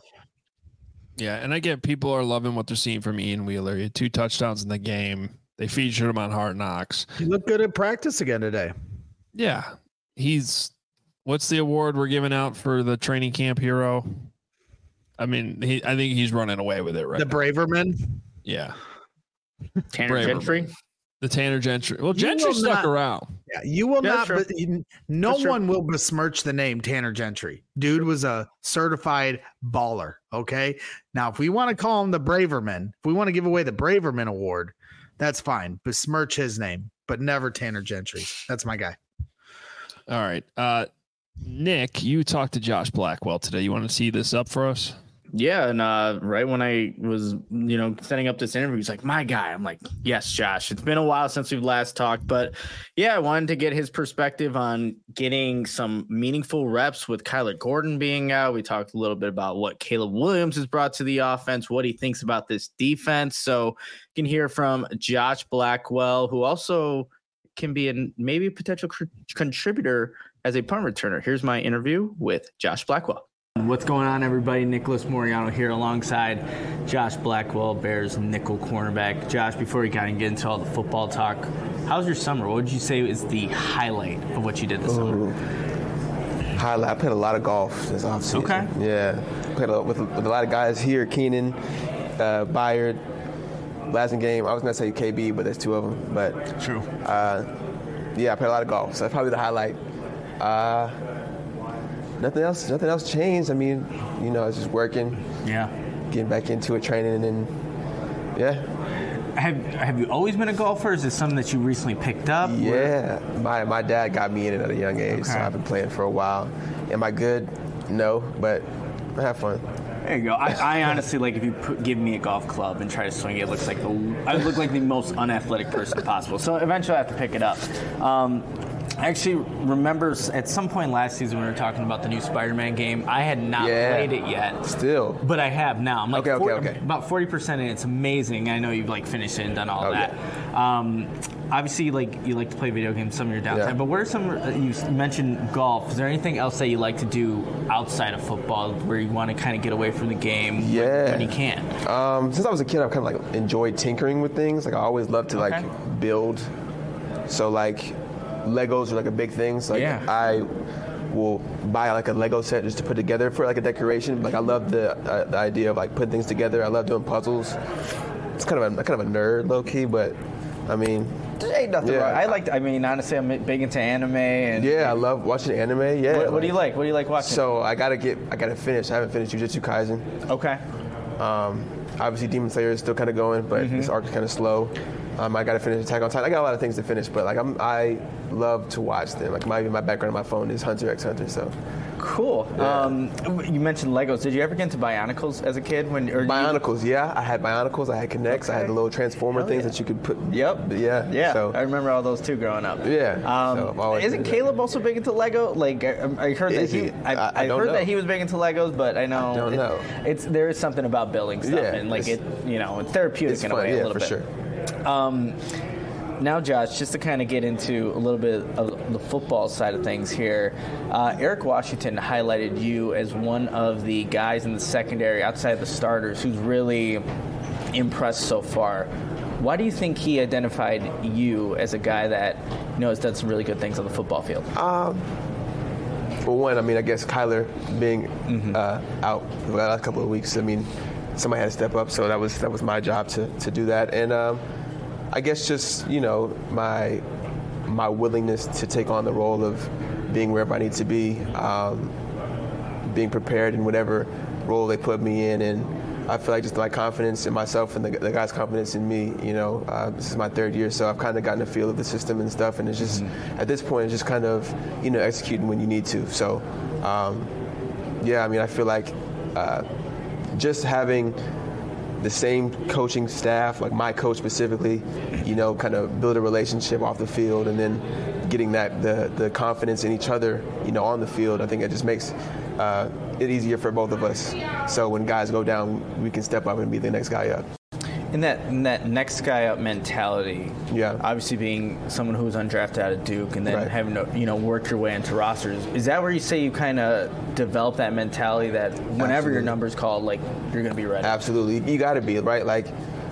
Yeah, and I get people are loving what they're seeing from Ian Wheeler. He had two touchdowns in the game. They featured him on Hard Knocks. He looked good at practice again today. Yeah. He's what's the award we're giving out for the training camp hero? I mean, he I think he's running away with it right The now. Braverman? Yeah. Tanner Braverman. Gentry? The Tanner Gentry. Well, Gentry stuck not, around. Yeah, you will yeah, not. sure. But no That's one true. will besmirch the name Tanner Gentry. Dude was a certified baller. Okay. Now, if we want to call him the Braverman, if we want to give away the Braverman Award, that's fine. Besmirch his name, but never Tanner Gentry. That's my guy. All right. Uh, Nick, you talked to Josh Blackwell today. You want to see this up for us? Yeah, and uh, right when I was, you know, setting up this interview, he's like, my guy. I'm like, yes, Josh. It's been a while since we've last talked, but yeah, I wanted to get his perspective on getting some meaningful reps with Kyler Gordon being out. We talked a little bit about what Caleb Williams has brought to the offense, what he thinks about this defense. So you can hear from Josh Blackwell, who also can be a maybe a potential cr- contributor as a punt returner. Here's my interview with Josh Blackwell. What's going on, everybody? Nicholas Moriano here alongside Josh Blackwell, Bears nickel cornerback. Josh, before we kind of get into all the football talk, how's your summer? What would you say is the highlight of what you did this Ooh. summer? Highlight, I played a lot of golf this offseason. Okay. Yeah, played a, with, with a lot of guys here, Keenan, uh, Byard, last game. I was going to say K B, but there's two of them. But True. Uh, yeah, I played a lot of golf, so that's probably the highlight. Uh, Nothing else. Nothing else changed. I mean, you know, it's just working. Yeah. Getting back into it, training, and yeah. Have Have you always been a golfer? Or is this something that you recently picked up? Yeah. My my dad got me in it at a young age, Okay. so I've been playing for a while. Am I good? No, but I have fun. There you go. I, I honestly, like, if you put, give me a golf club and try to swing it, it looks like the I look like the most unathletic person possible. So eventually I have to pick it up. Um, I actually remember at some point last season when we were talking about the new Spider-Man game. I had not Yeah. played it yet. Still. But I have now. I'm like Okay, okay, four- okay. about forty percent in. It's amazing. I know you've like finished it and done all Oh, that. Um, obviously, like you like to play video games some of your downtime. Yeah. But what are some? uh, You mentioned golf. Is there anything else that you like to do outside of football where you want to kind of get away from the game when- Yeah. when you can? Um, since I was a kid, I've kind of like enjoyed tinkering with things. Like I always loved to Okay. like build. So like Legos are like a big thing. So like Yeah. I will buy like a Lego set just to put together for like a decoration. Like I love the uh, the idea of like putting things together. I love doing puzzles. It's kind of a kind of a nerd low key, but I mean, There ain't nothing Yeah. wrong. I like. I mean, honestly, I'm big into anime. And yeah, I love watching anime. Yeah. What, what do you like? What do you like watching? So I gotta get I gotta finish. I haven't finished Jujutsu Kaisen. Okay. Um, obviously, Demon Slayer is still kind of going, but Mm-hmm. this arc is kind of slow. Um, I got to finish Attack on Titan. I got a lot of things to finish, but like I'm, I love to watch them. Like my my background on my phone is Hunter x Hunter. So Cool. Yeah. Um, you mentioned Legos. Did you ever get into Bionicles as a kid? When or you- Bionicles, yeah, I had Bionicles. I had Kinects. I had the little transformer Hell things yeah. that you could put. Yep. Yeah. Yeah, So I remember all those too growing up. Yeah, Um, so I've always isn't been into Caleb also big into Lego? Like I, I heard Is that he, he? I, I- I I don't heard know. that he was big into Legos, but I know I don't it- know. it's there is something about building stuff Yeah, and like it's- it, you know, it's therapeutic it's in fun, a way yeah, a little for bit. sure. Um, now, Josh, just to kind of get into a little bit of the football side of things here, uh, Eric Washington highlighted you as one of the guys in the secondary outside the starters who's really impressed so far. Why do you think he identified you as a guy that you know has done some really good things on the football field? Um, well, one, I mean, I guess Kyler being Mm-hmm. uh, out for the last couple of weeks, I mean, somebody had to step up, so that was that was my job to, to do that. And um, I guess just you know my my willingness to take on the role of being wherever I need to be, um, being prepared in whatever role they put me in, and I feel like just my confidence in myself and the, the guys' confidence in me. You know, uh, this is my third year, so I've kind of gotten a feel of the system and stuff, and it's just at this point, it's just kind of you know executing when you need to. So, um, yeah, I mean, I feel like uh, just having the same coaching staff, like my coach specifically, you know, kind of build a relationship off the field, and then getting that the the confidence in each other, you know, on the field. I think it just makes uh, it easier for both of us. So when guys go down, we can step up and be the next guy up. In that in that next guy up mentality, Yeah. obviously being someone who was undrafted out of Duke and then Right. having to you know work your way into rosters, is that where you say you kind of develop that mentality that whenever your Absolutely. number's called, like you're gonna be ready? Absolutely, you got to be right. Like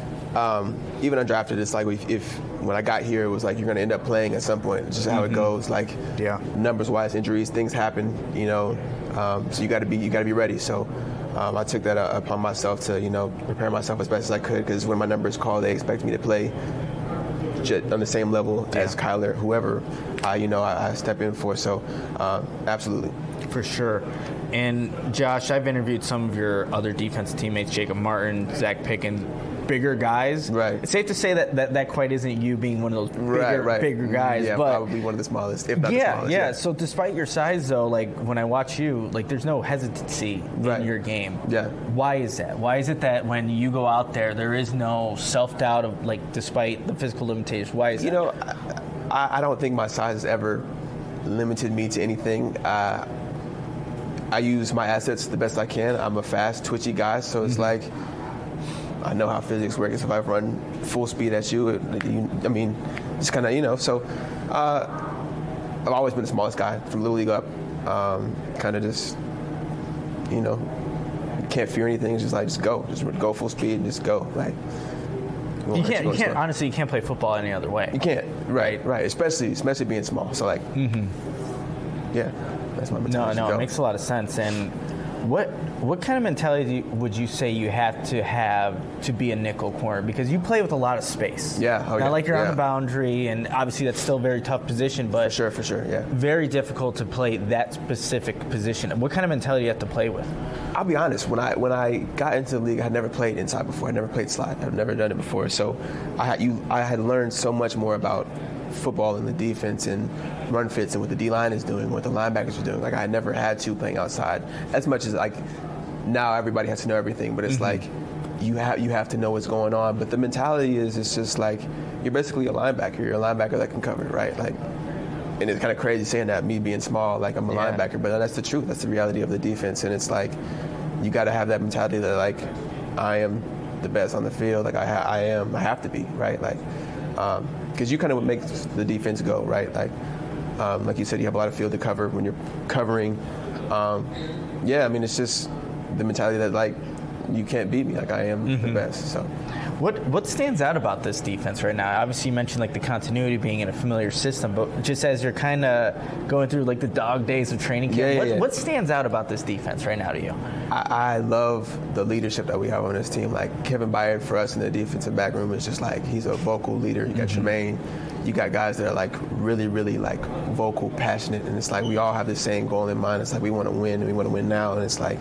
um, even undrafted, it's like if, if when I got here, it was like you're going to end up playing at some point. It's just how it goes. Like Yeah. numbers wise, injuries, things happen. You know, um, so you got to be you got to be ready. So. Um, I took that uh, upon myself to, you know, prepare myself as best as I could, because when my number is called, they expect me to play j- on the same level as Kyler, whoever, uh, you know, I, I step in for. So, uh, absolutely. For sure. And Josh, I've interviewed some of your other defensive teammates, Jacob Martin, Zach Pickens, bigger guys. Right. It's safe to say that that, that quite isn't you being one of those bigger, Right, right. bigger guys. Yeah, but probably one of the smallest, if not yeah, the smallest. yeah. So despite your size, though, like when I watch you, like there's no hesitancy Right. in your game. Yeah. Why is that? Why is it that when you go out there, there is no self-doubt of like, despite the physical limitations? Why is You that? know, I, I don't think my size has ever limited me to anything. Uh, I use my assets the best I can. I'm a fast, twitchy guy, so it's like I know how physics works. If I run full speed at you, it, you I mean, it's kind of, you know, so uh, I've always been the smallest guy from Little League up. Um, kind of just, you know, can't fear anything. It's just like, just go. Just go full speed and just go. Like, You can't. You can't. Honestly, you can't play football any other way. You can't. Right. Right. Especially, especially being small. So like, yeah, that's my No, mentality. no, Go. it makes a lot of sense. And what what kind of mentality do you, would you say you have to have to be a nickel corner? Because you play with a lot of space. Yeah, oh, Not yeah, like you're on yeah. the boundary, and obviously that's still a very tough position, but For sure. For sure. Yeah. very difficult to play that specific position. What kind of mentality do you have to play with? I'll be honest. When I when I got into the league, I had never played inside before. I never played slide. I've never done it before. So I had you. I had learned so much more about football and the defense and run fits and what the D line is doing, what the linebackers are doing. Like I had never had to playing outside as much as like now everybody has to know everything. But it's like you have you have to know what's going on. But the mentality is it's just like you're basically a linebacker. You're a linebacker that can cover, right? Like and it's kind of crazy saying that, me being small, like I'm a Yeah. linebacker, but that's the truth. That's the reality of the defense, and it's like you got to have that mentality that like I am the best on the field. Like I, ha- I am, I have to be, right? Like, um, because you kind of what makes the defense go, right? Like, um, like you said, you have a lot of field to cover when you're covering. Um, yeah, I mean, it's just the mentality that like you can't beat me. Like I am mm-hmm. the best. So. What what stands out about this defense right now? Obviously, you mentioned like the continuity being in a familiar system, but just as you're kind of going through like the dog days of training camp, yeah, yeah, what, yeah. what stands out about this defense right now to you? I, I love the leadership that we have on this team. Like Kevin Byard for us in the defensive back room is just like he's a vocal leader. You got mm-hmm. Tremaine, you got guys that are like really, really like vocal, passionate, and it's like we all have the same goal in mind. It's like we want to win and we want to win now, and it's like.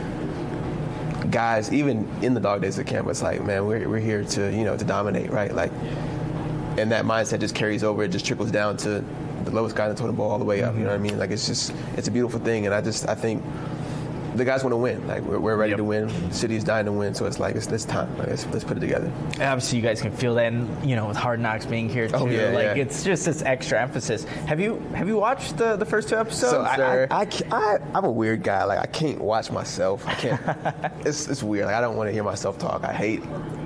Guys, even in the dog days of camp, it's like, man, we're we're here to you know to dominate, right? Like, and that mindset just carries over. It just trickles down to the lowest guy in the totem pole all the way up. Mm-hmm. You know what I mean? Like, it's just it's a beautiful thing, and I just I think the guys want to win. Like, we're, we're ready yep. to win. The city's dying to win, so it's like it's this time. Like, let's, let's put it together. And obviously, you guys can feel that, and you know, with Hard Knocks being here too. Oh, yeah, like yeah. it's just this extra emphasis. Have you have you watched the, the first two episodes? So I, I, I, I I'm a weird guy. Like I can't watch myself. I can't. it's it's weird. Like I don't want to hear myself talk. I hate.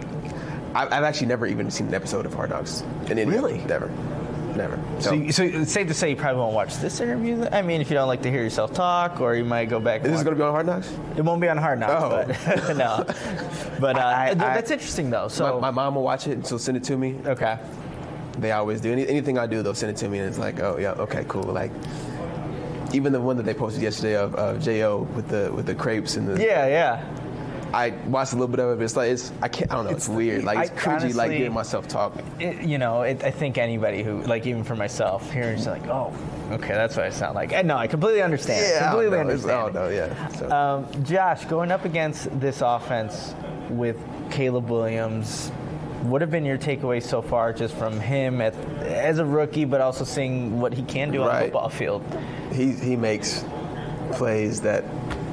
I've, I've actually never even seen an episode of Hard Knocks. In any really? Never. Never. So, so, so it's safe to say you probably won't watch this interview. I mean, if you don't like to hear yourself talk, or you might go back. Is this going to be on Hard Knocks? It won't be on Hard Knocks, oh. but no. But uh, I, I, that's interesting, though. So my, my mom will watch it, and she'll send it to me. Okay. They always do. Any, anything I do, they'll send it to me, and it's like, oh yeah, okay, cool. Like even the one that they posted yesterday of, of J O with the with the crepes and the yeah, yeah. I watched a little bit of it, but it's like it's I can't I don't know it's, it's weird like it's I, cringy honestly, like hearing myself talking. It, you know, it, I think anybody who like even for myself hearing it's like oh okay that's what I sound like. And no, I completely understand. Yeah, completely I don't know. understand. Oh no, yeah. So. Um, Josh, going up against this offense with Caleb Williams, what have been your takeaways so far just from him as, as a rookie, but also seeing what he can do right. on the football field? He he makes plays that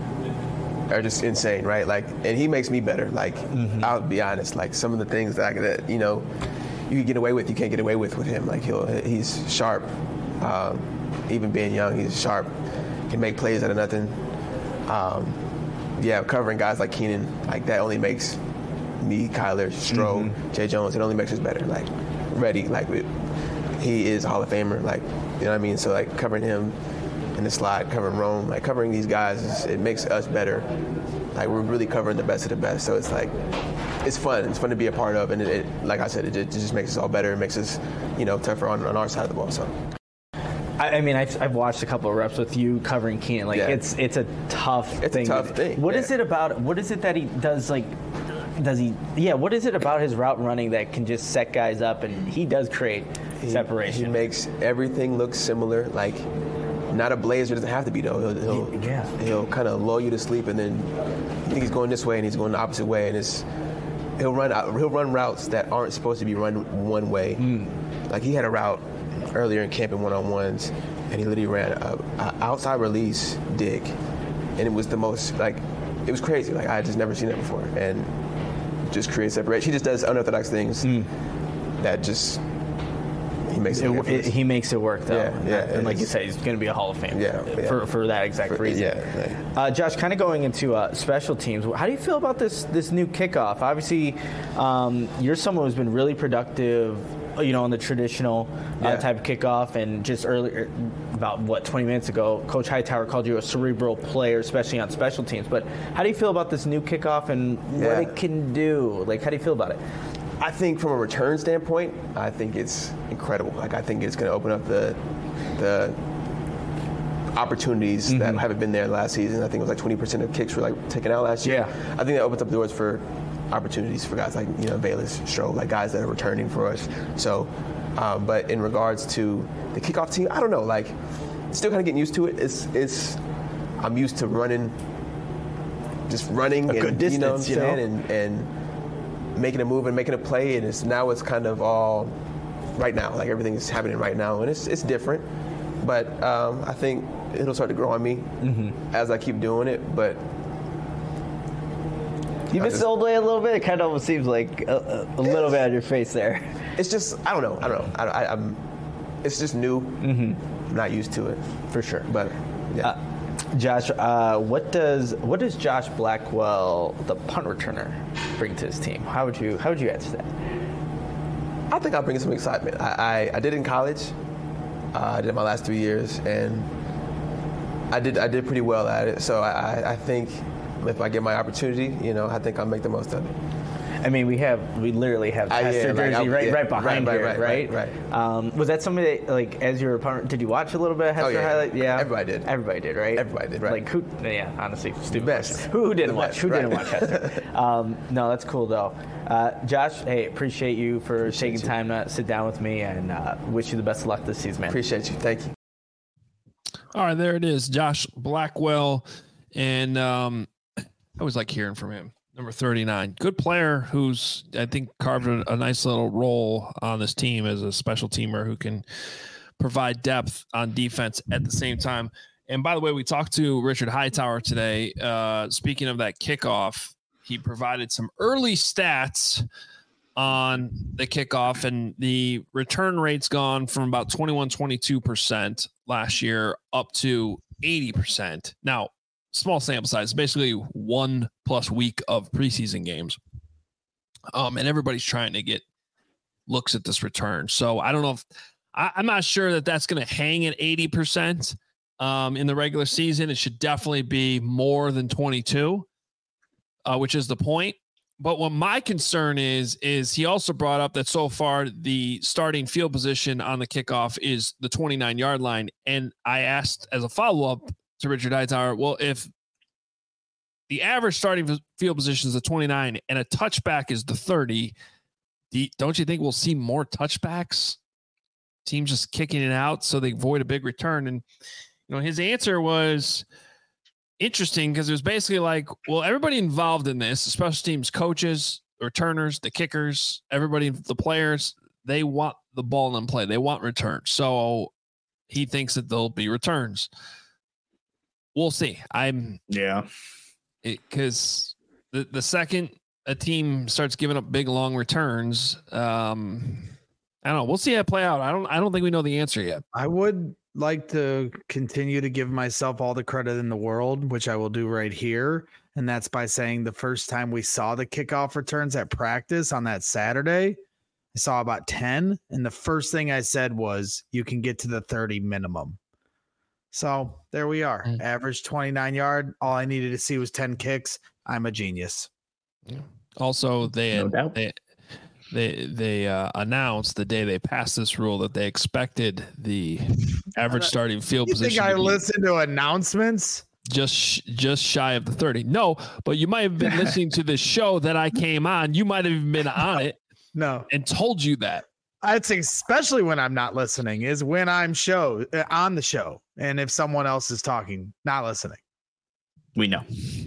are just insane, right? Like, and he makes me better. Like, mm-hmm. I'll be honest. Like, some of the things that, I, that you know, you can get away with, you can't get away with with him. Like, he'll he's sharp. Um, even being young, he's sharp. Can make plays out of nothing. Um, yeah, covering guys like Keenan, like that only makes me, Kyler, Stroh, mm-hmm. Jay Jones. It only makes us better. Like, ready. Like, it, he is a Hall of Famer. Like, you know what I mean? So like covering him. In the slot, covering Rome, like covering these guys, is, it makes us better. Like we're really covering the best of the best. So it's like, it's fun. It's fun to be a part of, and it, it like I said, it, it just makes us all better. It makes us, you know, tougher on, on our side of the ball. So. I, I mean, I've, I've watched a couple of reps with you covering Keenan. Like yeah. it's it's a tough it's thing. It's a tough thing. What yeah. is it about? What is it that he does? Like, does he? Yeah. What is it about his route running that can just set guys up, and he does create he, separation? He makes everything look similar. Like. Not a blazer, doesn't have to be though. He'll, he'll, yeah. he'll kind of lull you to sleep, and then you think he's going this way, and he's going the opposite way, and it's he'll run he'll run routes that aren't supposed to be run one way. Mm. Like he had a route earlier in camp in one-on-ones, and he literally ran a, a outside release dig, and it was the most like it was crazy. Like I had just never seen that before, and just creates separation. He just does unorthodox things mm. that just. He makes it, it, it, he makes it work, though. Yeah, yeah. And like you said, he's going to be a Hall of Famer yeah, yeah. for, for that exact for, reason. Yeah, yeah. Uh, Josh, kind of going into uh, special teams, how do you feel about this this new kickoff? Obviously, um, you're someone who's been really productive, you know, on the traditional uh, yeah. type of kickoff. And just earlier, about, what, twenty minutes ago, Coach Hightower called you a cerebral player, especially on special teams. But how do you feel about this new kickoff and yeah. what it can do? Like, how do you feel about it? I think from a return standpoint, I think it's incredible. Like I think it's going to open up the the opportunities mm-hmm. that haven't been there last season. I think it was like twenty percent of kicks were like taken out last year. Yeah. I think that opens up doors for opportunities for guys like you know Bayless, Stroh, like guys that are returning for us. So, uh, but in regards to the kickoff team, I don't know. Like, still kind of getting used to it. It's it's I'm used to running, just running a and good distance, you know what I'm you saying, know? and and. making a move and making a play, and it's now it's kind of all right now. Like everything is happening right now, and it's it's different. But um, I think it'll start to grow on me mm-hmm. as I keep doing it. But you miss the old way a little bit. It kind of almost seems like a, a little bit on your face there. It's just I don't know. I don't know. I, I, I'm. It's just new. Mm-hmm. not used to it for sure. But yeah. Uh, Josh, uh, what does what does Josh Blackwell, the punt returner, bring to his team? How would you how would you answer that? I think I'll bring some excitement. I, I, I did in college. Uh, I did my last three years, and I did I did pretty well at it. So I, I think if I get my opportunity, you know, I think I'll make the most of it. I mean, we have we literally have Uh, yeah, Pastor like, Jersey I- right yeah, right behind right, here, right, right? right, right. Um, was that somebody that, like, as you were a punt, did you watch a little bit of Hester Oh, yeah. highlight? Yeah, Everybody did. Everybody did, right? Everybody did, right. Like who? Yeah, honestly, stupid. best. question. Who, who didn't The watch? best, Who didn't right. watch Hester? um, no, that's cool though. Uh, Josh, hey, appreciate you for Appreciate taking you. time to sit down with me, and uh, wish you the best of luck this season, man. Appreciate you. Thank you. All right, there it is, Josh Blackwell, and um, I always like hearing from him. Number thirty-nine, good player who's I think carved a, a nice little role on this team as a special teamer who can provide depth on defense at the same time. And by the way, we talked to Richard Hightower today. Uh, speaking of that kickoff, he provided some early stats on the kickoff, and the return rate's gone from about twenty-one, twenty-two percent last year up to eighty percent. Now, small sample size, basically one plus week of preseason games. Um, and everybody's trying to get looks at this return. So I don't know if I, I'm not sure that that's going to hang at eighty percent um, in the regular season. It should definitely be more than twenty-two, uh, which is the point. But what my concern is, is he also brought up that so far the starting field position on the kickoff is the twenty-nine yard line. And I asked as a follow-up to Richard Hightower, well, if the average starting field position is the twenty-nine and a touchback is the thirty, don't you think we'll see more touchbacks? Teams just kicking it out so they avoid a big return. And, you know, his answer was interesting because it was basically like, well, everybody involved in this, special teams coaches, returners, the kickers, everybody, the players, they want the ball in play. They want returns. So he thinks that there'll be returns. We'll see. I'm yeah, because the the second a team starts giving up big long returns, um, I don't know. We'll see how it play out. I don't. I don't think we know the answer yet. I would like to continue to give myself all the credit in the world, which I will do right here, and that's by saying the first time we saw the kickoff returns at practice on that Saturday, I saw about ten, and the first thing I said was, "You can get to the thirty minimum." So there we are. Mm. Average twenty-nine yard. All I needed to see was ten kicks. I'm a genius. Yeah. Also, they no doubt. they they, they uh, announced the day they passed this rule that they expected the average starting field you position. You think I listen to announcements? Just just shy of the thirty. No, but you might have been listening to this show that I came on. You might have even been on it. No, and told you that. I'd say especially when I'm not listening is when I'm show uh, on the show. And if someone else is talking, not listening. We know.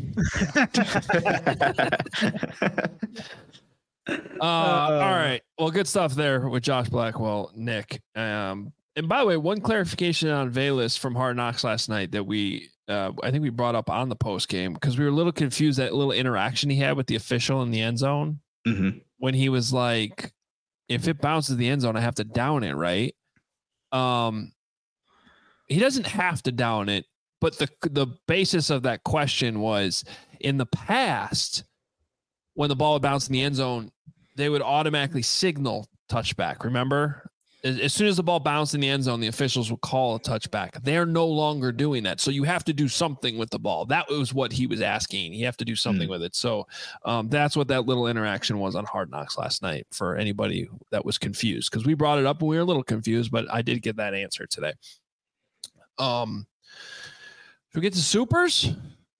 uh, uh, all right. Well, good stuff there with Josh Blackwell, Nick. Um, and by the way, one clarification on Velus from Hard Knocks last night that we, uh, I think we brought up on the post game because we were a little confused that little interaction he had with the official in the end zone mm-hmm. when he was like, if it bounces the end zone, I have to down it, right? Um, he doesn't have to down it, but the the basis of that question was in the past, when the ball would bounce in the end zone, they would automatically signal touchback. Remember? As, as soon as the ball bounced in the end zone, the officials would call a touchback. They're no longer doing that. So you have to do something with the ball. That was what he was asking. You have to do something mm. with it. So um, that's what that little interaction was on Hard Knocks last night for anybody that was confused, because we brought it up and we were a little confused, but I did get that answer today. Um, should we get to supers?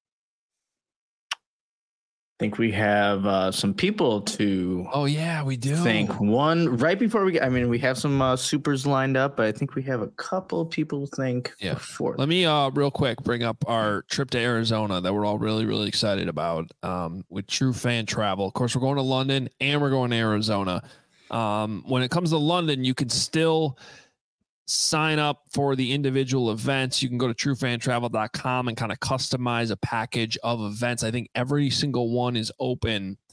I think we have uh, some people to. Oh yeah, we do. Think one right before we get. I mean, we have some uh, supers lined up, but I think we have a couple people think. Yeah. Before. Let me uh real quick bring up our trip to Arizona that we're all really really excited about. Um, with True Fan Travel. Of course, we're going to London and we're going to Arizona. Um, when it comes to London, you can still sign up for the individual events. You can go to true fan travel dot com and kind of customize a package of events. I think every single one is open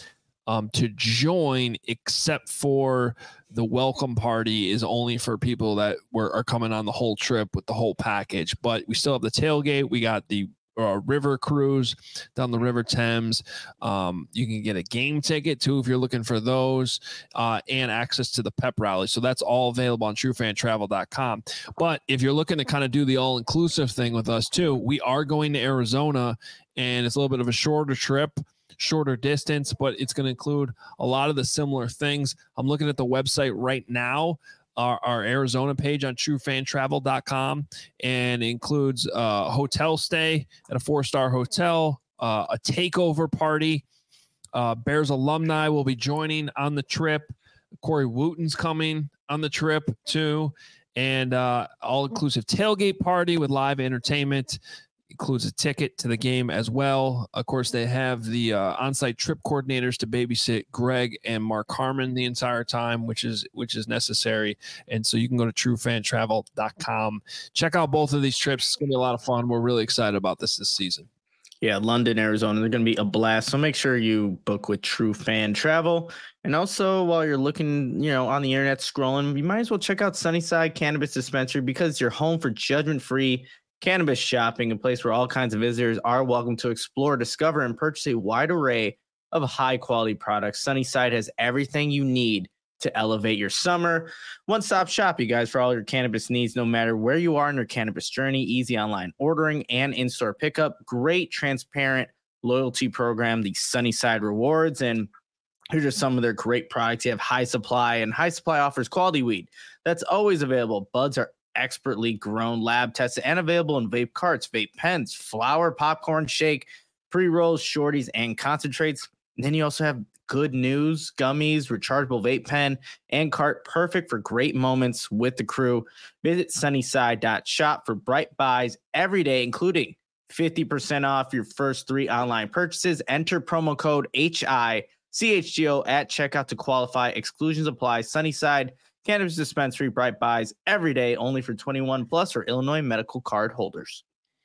um, to join, except for the welcome party is only for people that were are coming on the whole trip with the whole package. But we still have the tailgate. We got the uh, river cruise down the River Thames. Um, you can get a game ticket too if you're looking for those, uh, and access to the pep rally. So that's all available on true fan travel dot com. But if you're looking to kind of do the all-inclusive thing with us too, we are going to Arizona, and it's a little bit of a shorter trip, shorter distance, but it's going to include a lot of the similar things. I'm looking at the website right now, our, our Arizona page on true fan travel dot com, and it includes a hotel stay at a four-star hotel, uh, a takeover party. Uh, Bears alumni will be joining on the trip. Corey Wooten's coming on the trip too, and uh, all-inclusive tailgate party with live entertainment. Includes a ticket to the game as well. Of course, they have the uh, on-site trip coordinators to babysit Greg and Mark Harmon the entire time, which is which is necessary. And so you can go to true fan travel dot com. Check out both of these trips. It's going to be a lot of fun. We're really excited about this this season. Yeah, London, Arizona, they're going to be a blast. So make sure you book with True Fan Travel. And also, while you're looking, you know, on the internet scrolling, you might as well check out Sunnyside Cannabis Dispensary, because you're home for judgment-free cannabis shopping, a place where all kinds of visitors are welcome to explore, discover, and purchase a wide array of high-quality products. Sunnyside has everything you need to elevate your summer. One-stop shop, you guys, for all your cannabis needs, no matter where you are in your cannabis journey. Easy online ordering and in-store pickup. Great, transparent loyalty program, the Sunnyside Rewards. And here's just some of their great products. You have High Supply, and High Supply offers quality weed that's always available. Buds are expertly grown, lab tested, and available in vape carts, vape pens, flour, popcorn, shake, pre-rolls, shorties, and concentrates. And then you also have Good News gummies, rechargeable vape pen, and cart, perfect for great moments with the crew. Visit sunnyside dot shop for bright buys every day, including fifty percent off your first three online purchases. Enter promo code H I C H G O at checkout to qualify. Exclusions apply. Sunnyside Cannabis Dispensary, bright buys every day, only for twenty-one plus or Illinois medical card holders.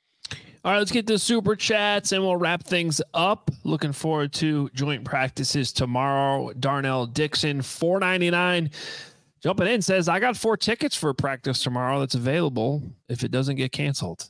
All right, let's get to super chats and we'll wrap things up. Looking forward to joint practices tomorrow. Darnell Dixon, four ninety-nine, jumping in, says, I got four tickets for practice tomorrow that's available if it doesn't get canceled.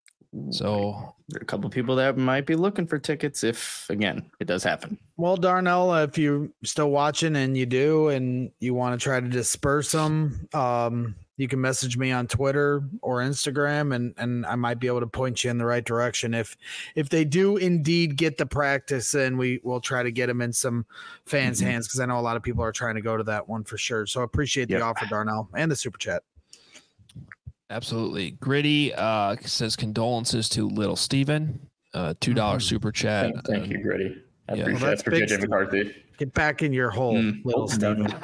So there are a couple people that might be looking for tickets if, again, it does happen. Well, Darnell, if you're still watching and you do, and you want to try to disperse them, um, you can message me on Twitter or Instagram, and, and I might be able to point you in the right direction. If if they do indeed get the practice, then we will try to get them in some fans' mm-hmm. hands, because I know a lot of people are trying to go to that one for sure. So I appreciate the yep. offer, Darnell, and the super chat. Absolutely. Gritty uh, says condolences to little Steven. Uh, two dollars mm-hmm. super chat. Thank, thank you, Gritty. I yeah. appreciate well, it for J J McCarthy. Get back in your hole, mm. little Steven.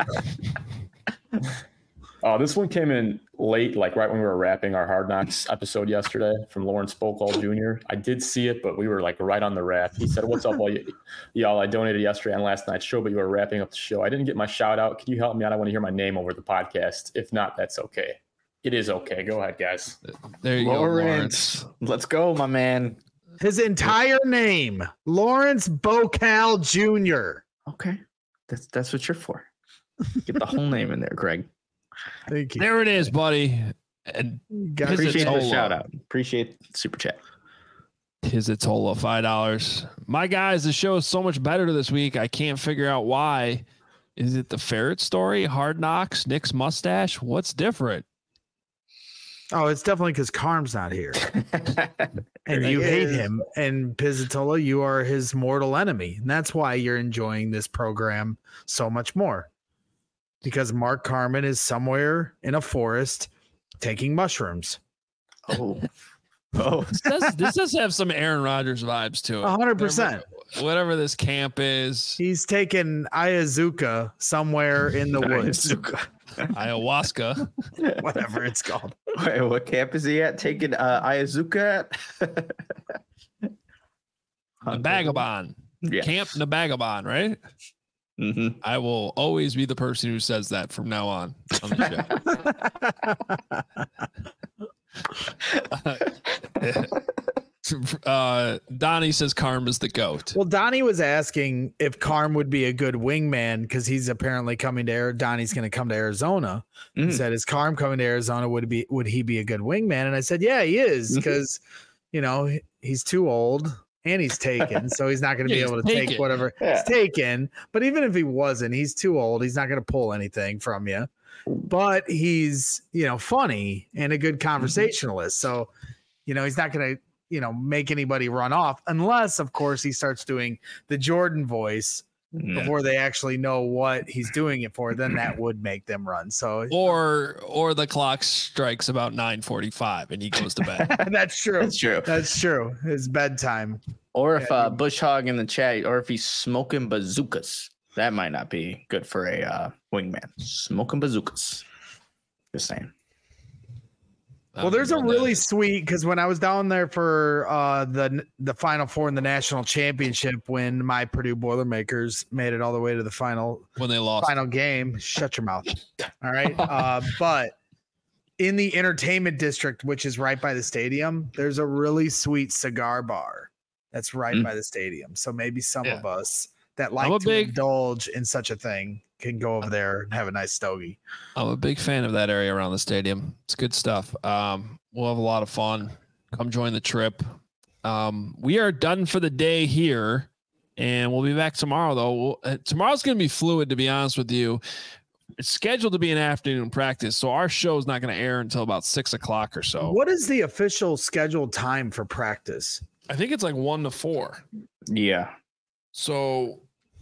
Oh, this one came in late, like right when we were wrapping our Hard Knocks episode yesterday, from Lawrence Spokal Junior I did see it, but we were like right on the wrap. He said, "What's up, all y- y'all? I donated yesterday on last night's show, but you were wrapping up the show. I didn't get my shout out. Can you help me out? I want to hear my name over the podcast. If not, that's okay." It is okay. Go ahead, guys. There you Lawrence. go, Lawrence. Let's go, my man. His entire name, Lawrence Spokal Junior Okay. That's that's what you're for. Get the whole name in there, Greg. Thank you. There it is, buddy. And appreciate the shout out. Appreciate the super chat. Pizzotola, five dollars. My guys, the show is so much better this week. I can't figure out why. Is it the ferret story? Hard Knocks? Nick's mustache? What's different? Oh, it's definitely because Carm's not here. And you hate him. And Pizzotola, you are his mortal enemy. And that's why you're enjoying this program so much more. Because Mark Carman is somewhere in a forest taking mushrooms. Oh. Oh. This does, this does have some Aaron Rodgers vibes to it. one hundred percent. Whatever, whatever this camp is. He's taking ayahuasca somewhere in the woods. Ayahuasca. Whatever it's called. Wait, what camp is he at? Taking uh, ayahuasca at? Nabagabon. Yes. Camp Nabagabon, right? Mm-hmm. I will always be the person who says that from now on on the show. Uh, Donnie says Carm is the GOAT. Well, Donnie was asking if Carm would be a good wingman because he's apparently coming to Arizona. Donnie's going to come to Arizona. Mm. He said, "Is Carm coming to Arizona? Would be would he be a good wingman?" And I said, "Yeah, he is because you know he's too old and he's taken, so he's not going to yeah, be able to taken. take whatever yeah. he's taken. But even if he wasn't, he's too old. He's not going to pull anything from you. But he's you know funny and a good conversationalist. So you know he's not going to." you know, make anybody run off unless, of course, he starts doing the Jordan voice yeah. before they actually know what he's doing it for. Then that would make them run. So, or, or the clock strikes about nine forty-five and he goes to bed. That's true. That's true. That's true. It's bedtime. Or if uh, Bush Hog in the chat, or if he's smoking bazookas, that might not be good for a uh, wingman. Smoking bazookas. Just saying. Well, there's a really sweet because when I was down there for uh, the the Final Four in the national championship, when my Purdue Boilermakers made it all the way to the final when they lost final game, shut your mouth. All right, uh, but in the entertainment district, which is right by the stadium, there's a really sweet cigar bar that's right mm. by the stadium. So maybe some yeah. of us that like to big, indulge in such a thing can go over there and have a nice stogie. I'm a big fan of that area around the stadium. It's good stuff. Um, we'll have a lot of fun. Come join the trip. Um, we are done for the day here, and we'll be back tomorrow, though. We'll, uh, tomorrow's going to be fluid, to be honest with you. It's scheduled to be an afternoon practice, so our show is not going to air until about six o'clock or so. What is the official scheduled time for practice? I think it's like one to four. Yeah. So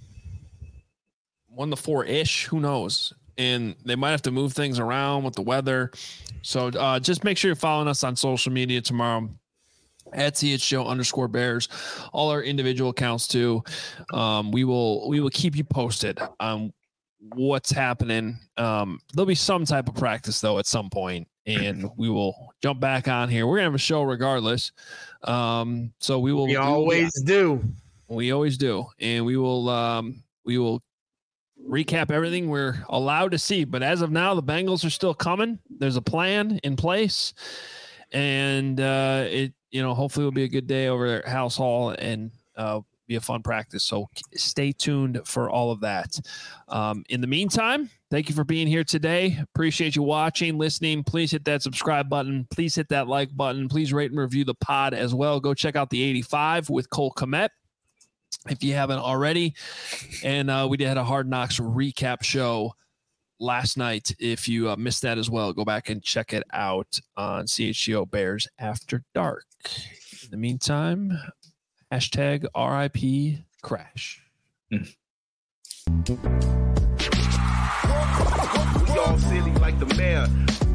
one to four ish, who knows? And they might have to move things around with the weather. So uh, just make sure you're following us on social media tomorrow at C H Show underscore Bears, all our individual accounts too. Um, we will, we will keep you posted on what's happening. Um, there'll be some type of practice though at some point, and we will jump back on here. We're gonna have a show regardless. Um, so we will, we always do. We always do. And we will, um, we will recap everything we're allowed to see. But as of now, the Bengals are still coming. There's a plan in place, and uh, it, you know, hopefully will be a good day over at House Hall and uh, be a fun practice. So stay tuned for all of that. Um, in the meantime, thank you for being here today. Appreciate you watching, listening. Please hit that subscribe button. Please hit that like button. Please rate and review the pod as well. Go check out the eighty-five with Cole Kmet if you haven't already. And uh, we did a Hard Knocks recap show last night. If you uh, missed that as well, go back and check it out on C H G O Bears After Dark. In the meantime, hashtag R I P Crash. Mm. We all silly like the mayor.